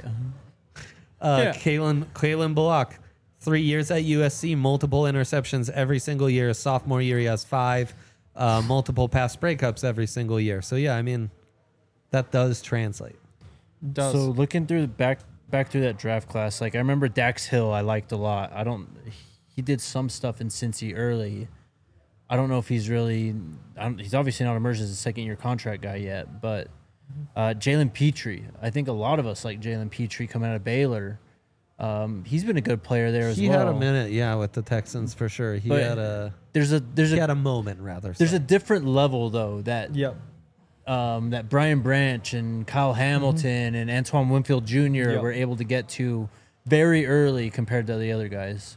Kalen Bullock, 3 years at USC, multiple interceptions every single year. Sophomore year, he has 5, multiple pass breakups every single year. So yeah, I mean, that does translate. Does. So looking through back through that draft class, like I remember Dax Hill, I liked a lot. he did some stuff in Cincy early. I don't know if he's really. He's obviously not emerged as a second-year contract guy yet, but Jalen Petrie. I think a lot of us like Jalen Petrie coming out of Baylor. He's been a good player there as well. He had a minute, with the Texans for sure. He But had a There's he had a moment rather. There's a different level though that Yep. that Brian Branch and Kyle Hamilton and Antoine Winfield Jr. Yep. were able to get to very early compared to the other guys.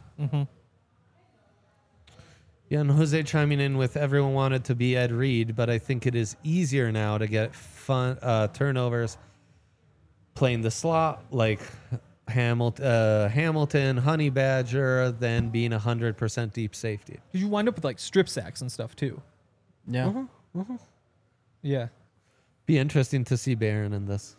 Yeah, and Jose chiming in with everyone wanted to be Ed Reed, but I think it is easier now to get fun turnovers playing the slot like Hamilton, Honey Badger, than being 100% deep safety. Did you wind up with like strip sacks and stuff too? Yeah. Yeah. Be interesting to see Barron in this.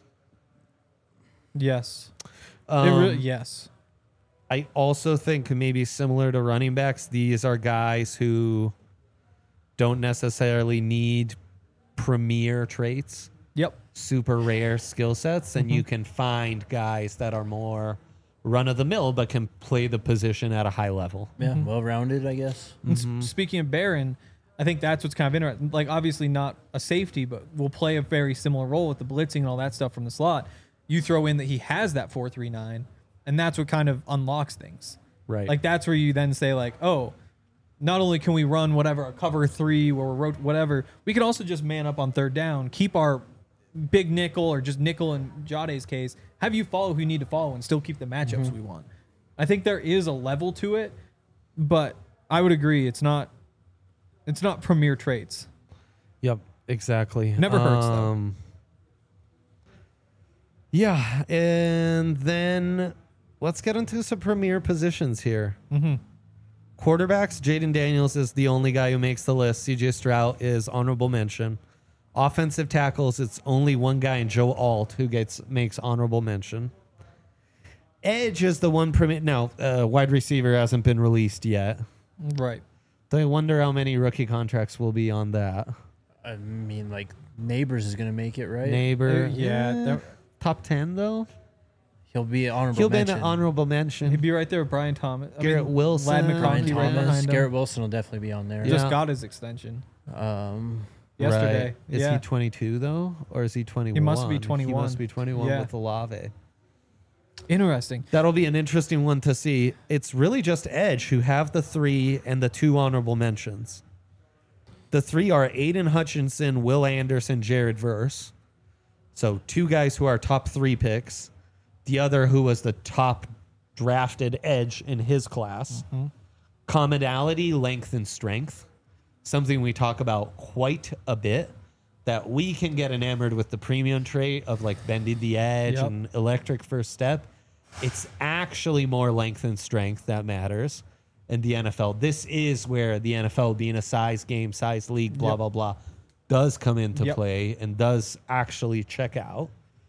Yes. Um, yes. I also think maybe similar to running backs, these are guys who don't necessarily need premier traits, Yep. super rare skill sets, and you can find guys that are more run of the mill but can play the position at a high level. Yeah. Well rounded, I guess. And speaking of Barron, I think that's what's kind of interesting. Like, obviously not a safety, but will play a very similar role with the blitzing and all that stuff from the slot. You throw in that he has that 4.39, and that's what kind of unlocks things. Right. Like, that's where you then say, like, oh, not only can we run whatever, a cover 3 or whatever, we can also just man up on third down, keep our big nickel or just nickel in Jade's case, have you follow who you need to follow and still keep the matchups we want. I think there is a level to it, but I would agree it's not premier traits. Yep, exactly. Never hurts, though. Yeah, and then let's get into some premier positions here. Quarterbacks, Jaden Daniels is the only guy who makes the list. CJ Stroud is honorable mention. Offensive tackles, it's only one guy in Joe Alt who makes honorable mention. Edge is the one wide receiver hasn't been released yet. Right. So I wonder how many rookie contracts will be on that. I mean, like Neighbors is going to make it, right? Neighbor, Yeah. top 10 though. He'll be honorable He'll be mention. an honorable mention. He'd be right there with Brian Thomas. Garrett Wilson. Ladd Brian McConkey right Thomas. behind him. Garrett Wilson will definitely be on there. Yeah. Just got his extension yesterday. Right. Is he 22 though, or is he 21? He must be He 21. must be 21 Yeah. with Olave. Interesting. That'll be an interesting one to see. It's really just Edge who have the 3 and the 2 honorable mentions. The 3 are Aiden Hutchinson, Will Anderson, Jared Verse. So 2 guys who are top 3 picks. The other who was the top drafted edge in his class. Commonality, length, and strength. Something we talk about quite a bit. That we can get enamored with the premium trait of like bending the edge Yep. and electric first step. It's actually more length and strength that matters in the NFL. This is where the NFL, being a size game, size league, blah, Yep. blah, blah, does come into Yep. play and does actually check out.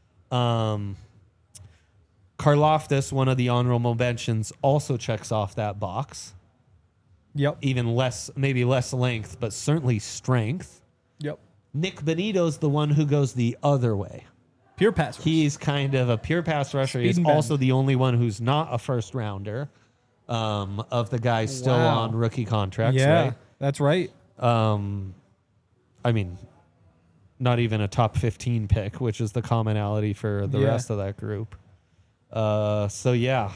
Karlaftis, one of the honorable mentions, also checks off that box. Yep. Even less, maybe less length, but certainly strength. Yep. Nick Benito's the one who goes the other way. Pure pass rush. He's kind of a pure pass rusher. Speed He's and bend. also the only one who's not a first rounder of the guys still Wow. on rookie contracts, yeah, that's right. right? I mean, not even a top 15 pick, which is the commonality for the Yeah. rest of that group. So yeah,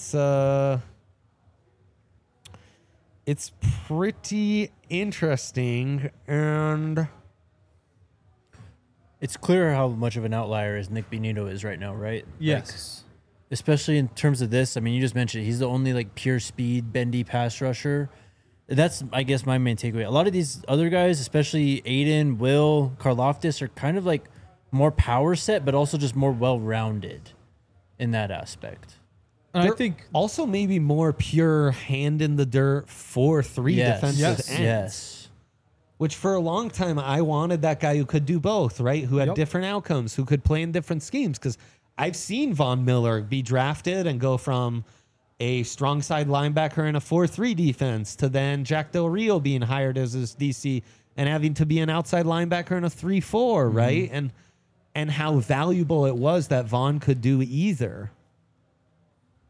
it's pretty interesting, and It's clear how much of an outlier as Nick Benito is right now, right? Yes. Like, especially in terms of this. I mean, you just mentioned he's the only like pure speed, bendy pass rusher. That's, I guess, my main takeaway. A lot of these other guys, especially Aiden, Will, Karlaftis, are kind of like more power set, but also just more well-rounded in that aspect. And I they're think also maybe more pure hand in the dirt 4-3 defensive Yes. ends. Yes. Which for a long time I wanted that guy who could do both, right? Who had Yep. different outcomes, who could play in different schemes. Because I've seen Von Miller be drafted and go from a strong side linebacker in a 4-3 defense to then Jack Del Rio being hired as his DC and having to be an outside linebacker in a 3-4, right? And how valuable it was that Von could do either.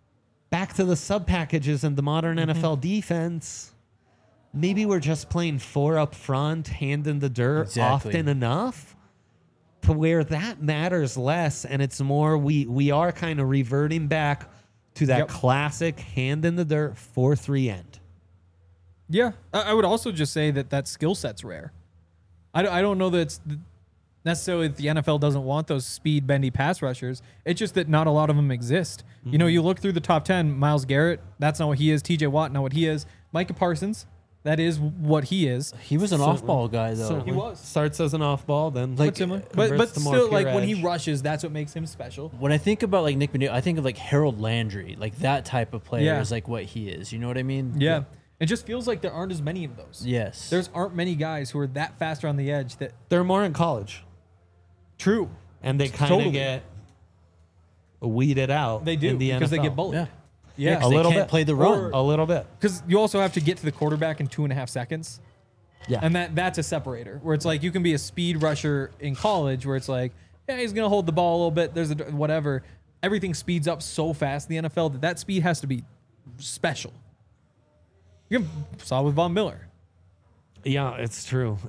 back to the sub packages and the modern NFL defense. Maybe we're just playing 4 up front, hand in the dirt Exactly. often enough to where that matters less. And it's more, we are kind of reverting back to that Yep. classic hand in the dirt 4-3 end. Yeah, I would also just say that skill set's rare. I don't know that it's necessarily that the NFL doesn't want those speed bendy pass rushers. It's just that not a lot of them exist. You know, you look through the top 10, Myles Garrett, that's not what he is. TJ Watt, not what he is. Micah Parsons, that is what he is. He was an off-ball guy, though. Certainly. He was. Starts as an off ball, then Like, Similar. converts But to more still, pure like when he edge. rushes, that's what makes him special. When I think about like Nick Benito, I think of like Harold Landry, like that type of player Yeah. is like what he is. You know what I mean? Yeah. It just feels like there aren't as many of those. Yes. There's aren't many guys who are that faster on the edge that They're more in college. true. And they kind of Totally. get weeded out. They do in the because they NFL. get bullied. Yeah. Yeah. Yeah, 'cause A they little can't bit. play the run. A little bit. Because you also have to get to the quarterback in 2.5 seconds. Yeah. And that's a separator where it's like you can be a speed rusher in college where it's like, yeah, he's going to hold the ball a little bit. There's a whatever. Everything speeds up so fast in the NFL that speed has to be special. You saw with Von Miller. Yeah, it's true.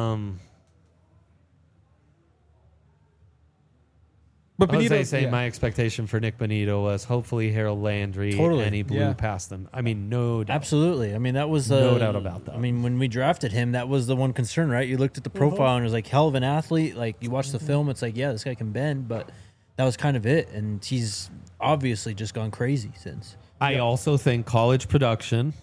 But I was Benito, saying my expectation for Nick Benito was hopefully Harold Landry, Totally. and he blew Yeah. past them. I mean, no doubt. Absolutely. I mean, that was No doubt about that. I mean, when we drafted him, that was the one concern, right? You looked at the profile and it was like hell of an athlete. Like you watch the film, it's like, yeah, this guy can bend, but that was kind of it. And he's obviously just gone crazy since. I also think college production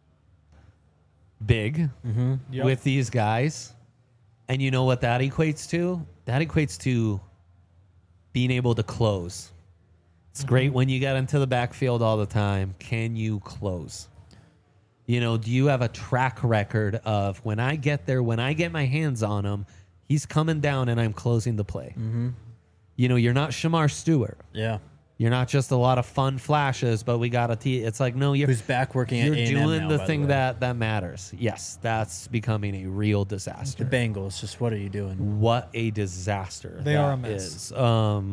big Yep. with these guys, and you know what that equates to? That equates to being able to close. It's great when you get into the backfield all the time. Can you close? You know, do you have a track record of when I get there, when I get my hands on him, he's coming down and I'm closing the play? You know, you're not Shamar Stewart. Yeah. You're not just a lot of fun flashes, but we got to It's like, no, you're Who's back working at you're A&M doing now, the by thing way. that matters. Yes, that's becoming a real disaster. The Bengals, just what are you doing? What a disaster. They that are a mess. is.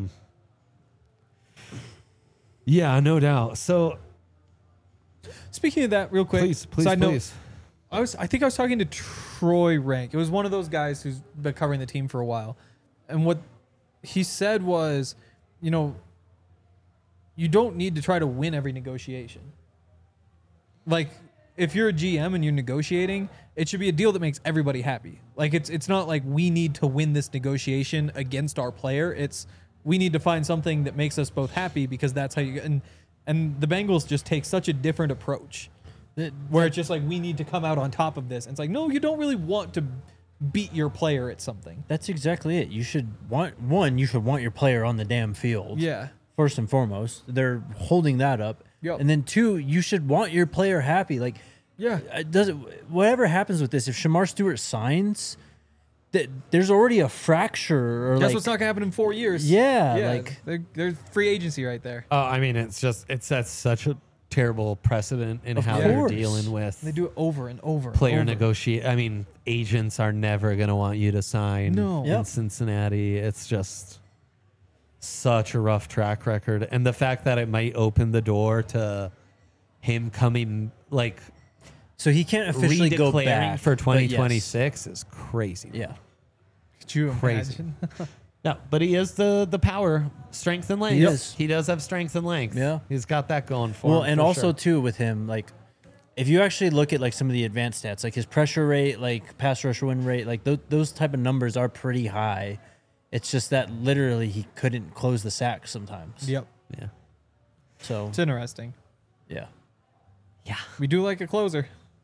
Yeah, no doubt. So Speaking of that, real quick, please, side note, please. I think I was talking to Troy Rank. It was one of those guys who's been covering the team for a while. And what he said was, you know, you don't need to try to win every negotiation. Like, if you're a GM and you're negotiating, it should be a deal that makes everybody happy. Like, it's not like we need to win this negotiation against our player. It's we need to find something that makes us both happy because that's how you and the Bengals just take such a different approach where it's just like we need to come out on top of this. And it's like, no, you don't really want to beat your player at something. That's exactly it. You should want your player on the damn field. Yeah. First and foremost, they're holding that up. Yep. And then 2, you should want your player happy. Like, Yeah. whatever happens with this, if Shamar Stewart signs, there's already a fracture or That's like what's not gonna happen in 4 years. Yeah, yeah. like- they're free agency right there. I mean, it sets such a terrible precedent in how course. you're dealing with They do it over and over. player and over. negotiate. I mean, agents are never going to want you to sign No. in Yep. Cincinnati. It's just such a rough track record. And the fact that it might open the door to him coming, like, so he can't officially go redeclaring back for but yes. 2026 is crazy. Yeah. Could you Crazy. imagine? No, but he is the power, strength, and length. He is. He does have strength and length. Yeah. He's got that going for Well, him. and for also sure. too with him, like if you actually look at like some of the advanced stats, like his pressure rate, like pass rush win rate, like those type of numbers are pretty high. It's just that literally he couldn't close the sack sometimes. Yep. Yeah. So It's interesting. yeah, Yeah. We do like a closer.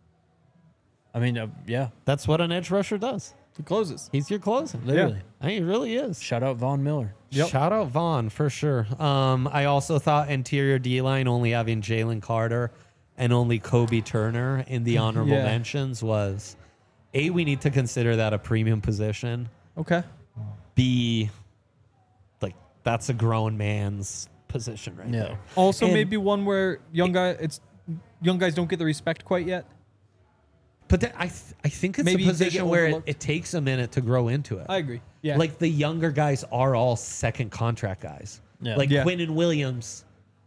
I mean, yeah, That's what an edge rusher does. He closes. He's your closer. literally. I mean, he really is. Shout out Von Miller. Yep. Shout out Vaughn for sure. I also thought interior D line only having Jalen Carter and only Kobe Turner in the honorable Yeah. mentions was we need to consider that a premium position. Okay. B, like that's a grown man's position right Yeah. there. Also, And- maybe one where young guys don't get the respect quite yet. But I think it's Maybe a they position get where overlooked. it takes a minute to grow into it. I agree. Yeah. Like the younger guys are all second contract guys. Yeah. Like Yeah. Quinnen Williams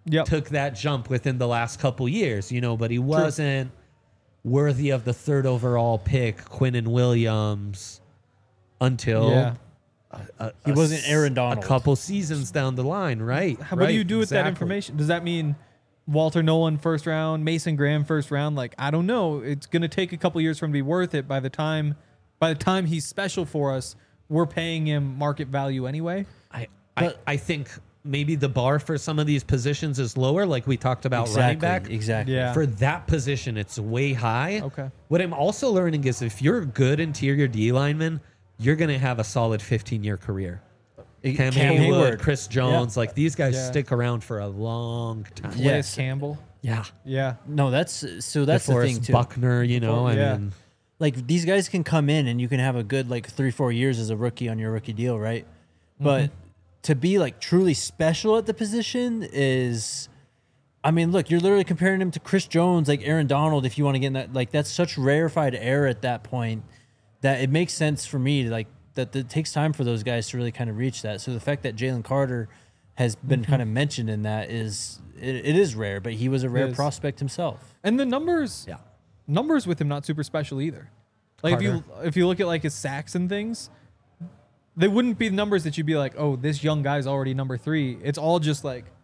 Yep. took that jump within the last couple years, but he wasn't worthy of the 3rd overall pick, Quinnen Williams, until Yeah. He wasn't Aaron Donald. a couple seasons down the line, right? What do you do with that exactly. information? Does that mean Walter Nolan 1st round, Mason Graham 1st round? Like, I don't know. It's going to take a couple years for him to be worth it. By the time he's special for us, we're paying him market value anyway. I think maybe the bar for some of these positions is lower, like we talked about running back. Exactly. Yeah. For that position, it's way high. Okay. What I'm also learning is if you're a good interior D lineman, you're going to have a solid 15-year career. Cam Hayward, Chris Jones, like these guys stick around for a long time. Yeah. Yes. Campbell. Yeah. Yeah. No, that's the DeForest thing too. Buckner, Yeah. I mean, Like these guys can come in and you can have a good 3-4 years as a rookie on your rookie deal, right? But to be truly special at the position is, I mean, look, you're literally comparing him to Chris Jones, like Aaron Donald. If you want to get in that, that's such rarefied air at that point that it makes sense for me to that it takes time for those guys to really kind of reach that. So the fact that Jalen Carter has been kind of mentioned in that is it is rare, but he was a rare prospect himself. And the numbers with him not super special either. Like if you look at his sacks and things, they wouldn't be numbers that you'd be like, oh, this young guy's already number 3. It's all just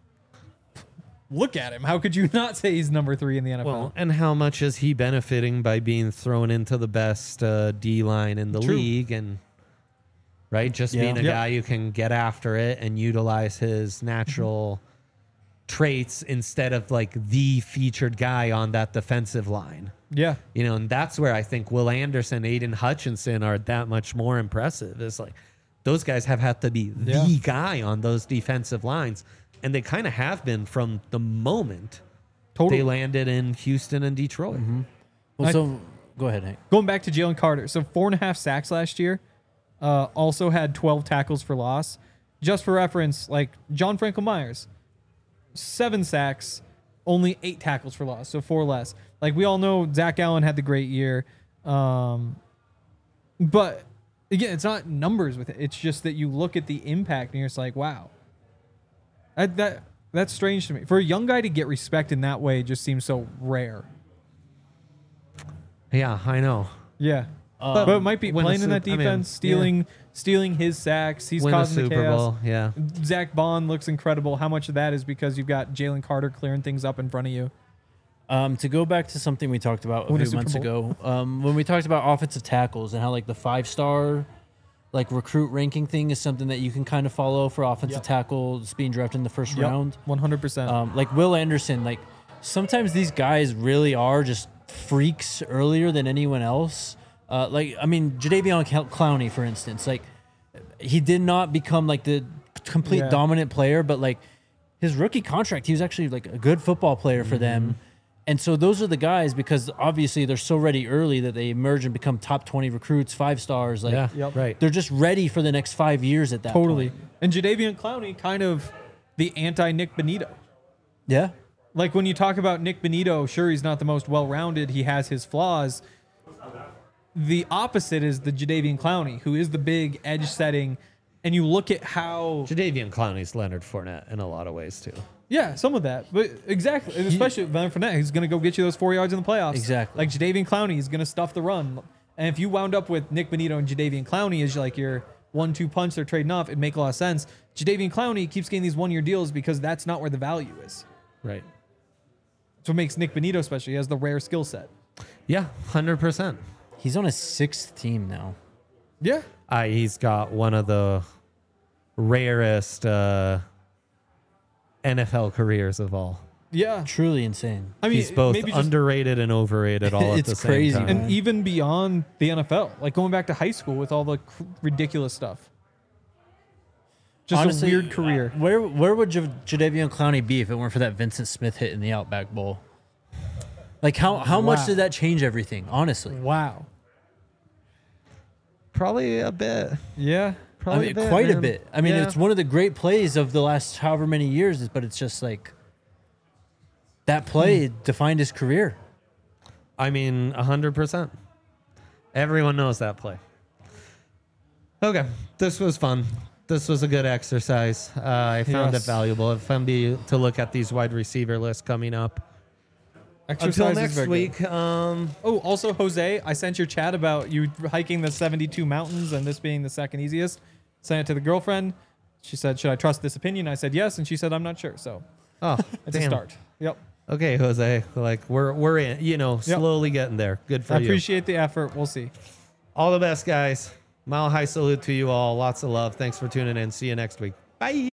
look at him. How could you not say he's number 3 in the NFL? well, and how much is he benefiting by being thrown into the best D line in the True. league? And right, just Yeah. being a Yep. guy who can get after it and utilize his natural traits instead of the featured guy on that defensive line. Yeah. And that's where I think Will Anderson, Aiden Hutchinson are that much more impressive. It's those guys have had to be the guy on those defensive lines, and they kind of have been from the moment Totally. they landed in Houston and Detroit. Well, I- so go ahead, Hank. Going back to Jalen Carter. So 4.5 sacks last year. Also had 12 tackles for loss. Just for reference, John Franklin Myers, 7 sacks, only 8 tackles for loss, so 4 less. We all know Zach Allen had the great year. But again, it's not numbers with it. It's just that you look at the impact and you're just like, wow. That's strange to me. For a young guy to get respect in that way just seems so rare. Yeah, I know. Yeah. But it might be win a playing in that Sup- I mean, defense, stealing his sacks. He's Win a causing the Super chaos. Bowl. Yeah. Zach Bond looks incredible. How much of that is because you've got Jalen Carter clearing things up in front of you? To go back to something we talked about a Win a few Super months Bowl. ago, when we talked about offensive tackles and how the 5-star recruit ranking thing is something that you can kind of follow for offensive tackles being drafted in the first round. 100%. Will Anderson, sometimes these guys really are just freaks earlier than anyone else. Jadeveon Clowney, for instance, he did not become the complete dominant player, but his rookie contract, he was actually a good football player for them. And so those are the guys, because obviously they're so ready early that they emerge and become top 20 recruits, 5 stars. Right. They're just ready for the next 5 years at that Totally. point. And Jadeveon Clowney, kind of the anti-Nick Benito. Yeah. When you talk about Nick Benito, sure, he's not the most well-rounded. He has his flaws. The opposite is the Jadeveon Clowney, who is the big edge setting. And you look at how... Jadeveon Clowney's Leonard Fournette in a lot of ways, too. Yeah, some of that. But exactly. And especially Leonard Fournette, he's going to go get you those 4 yards in the playoffs. Exactly. Jadeveon Clowney is going to stuff the run. And if you wound up with Nick Benito and Jadeveon Clowney as your 1-2 punch, they're trading off, it'd make a lot of sense. Jadeveon Clowney keeps getting these 1-year deals because that's not where the value is. Right. That's what makes Nick Benito special. He has the rare skill set. Yeah, 100%. He's on his 6th team now. Yeah. He's got one of the rarest NFL careers of all. Yeah. Truly insane. I mean, He's both maybe just, underrated and overrated all at It's the same crazy, time. man. and even beyond the NFL, going back to high school with all the ridiculous stuff. Just Honestly, a weird career. Where would Jadeveon Clowney be if it weren't for that Vincent Smith hit in the Outback Bowl? How much Wow. did that change everything? Honestly, Wow. Probably a bit. Yeah. Probably quite a man. bit. I mean, Yeah. it's one of the great plays of the last however many years, but it's just that play defined his career. I mean, 100%. Everyone knows that play. Okay, this was fun. this was a good exercise. I found it Yes. valuable. If I'm to look at these wide receiver lists coming up. Exercise Until is next very good. week, Oh, also, Jose, I sent your chat about you hiking the 72 mountains and this being the second easiest. Sent it to the girlfriend. She said, "Should I trust this opinion?" I said yes, and she said, "I'm not sure." So oh, it's a damn. start. Yep. Okay, Jose, like we're in, slowly getting there. Good for I you. appreciate the effort. We'll see. All the best, guys. Mile high salute to you all. Lots of love. Thanks for tuning in. See you next week. Bye.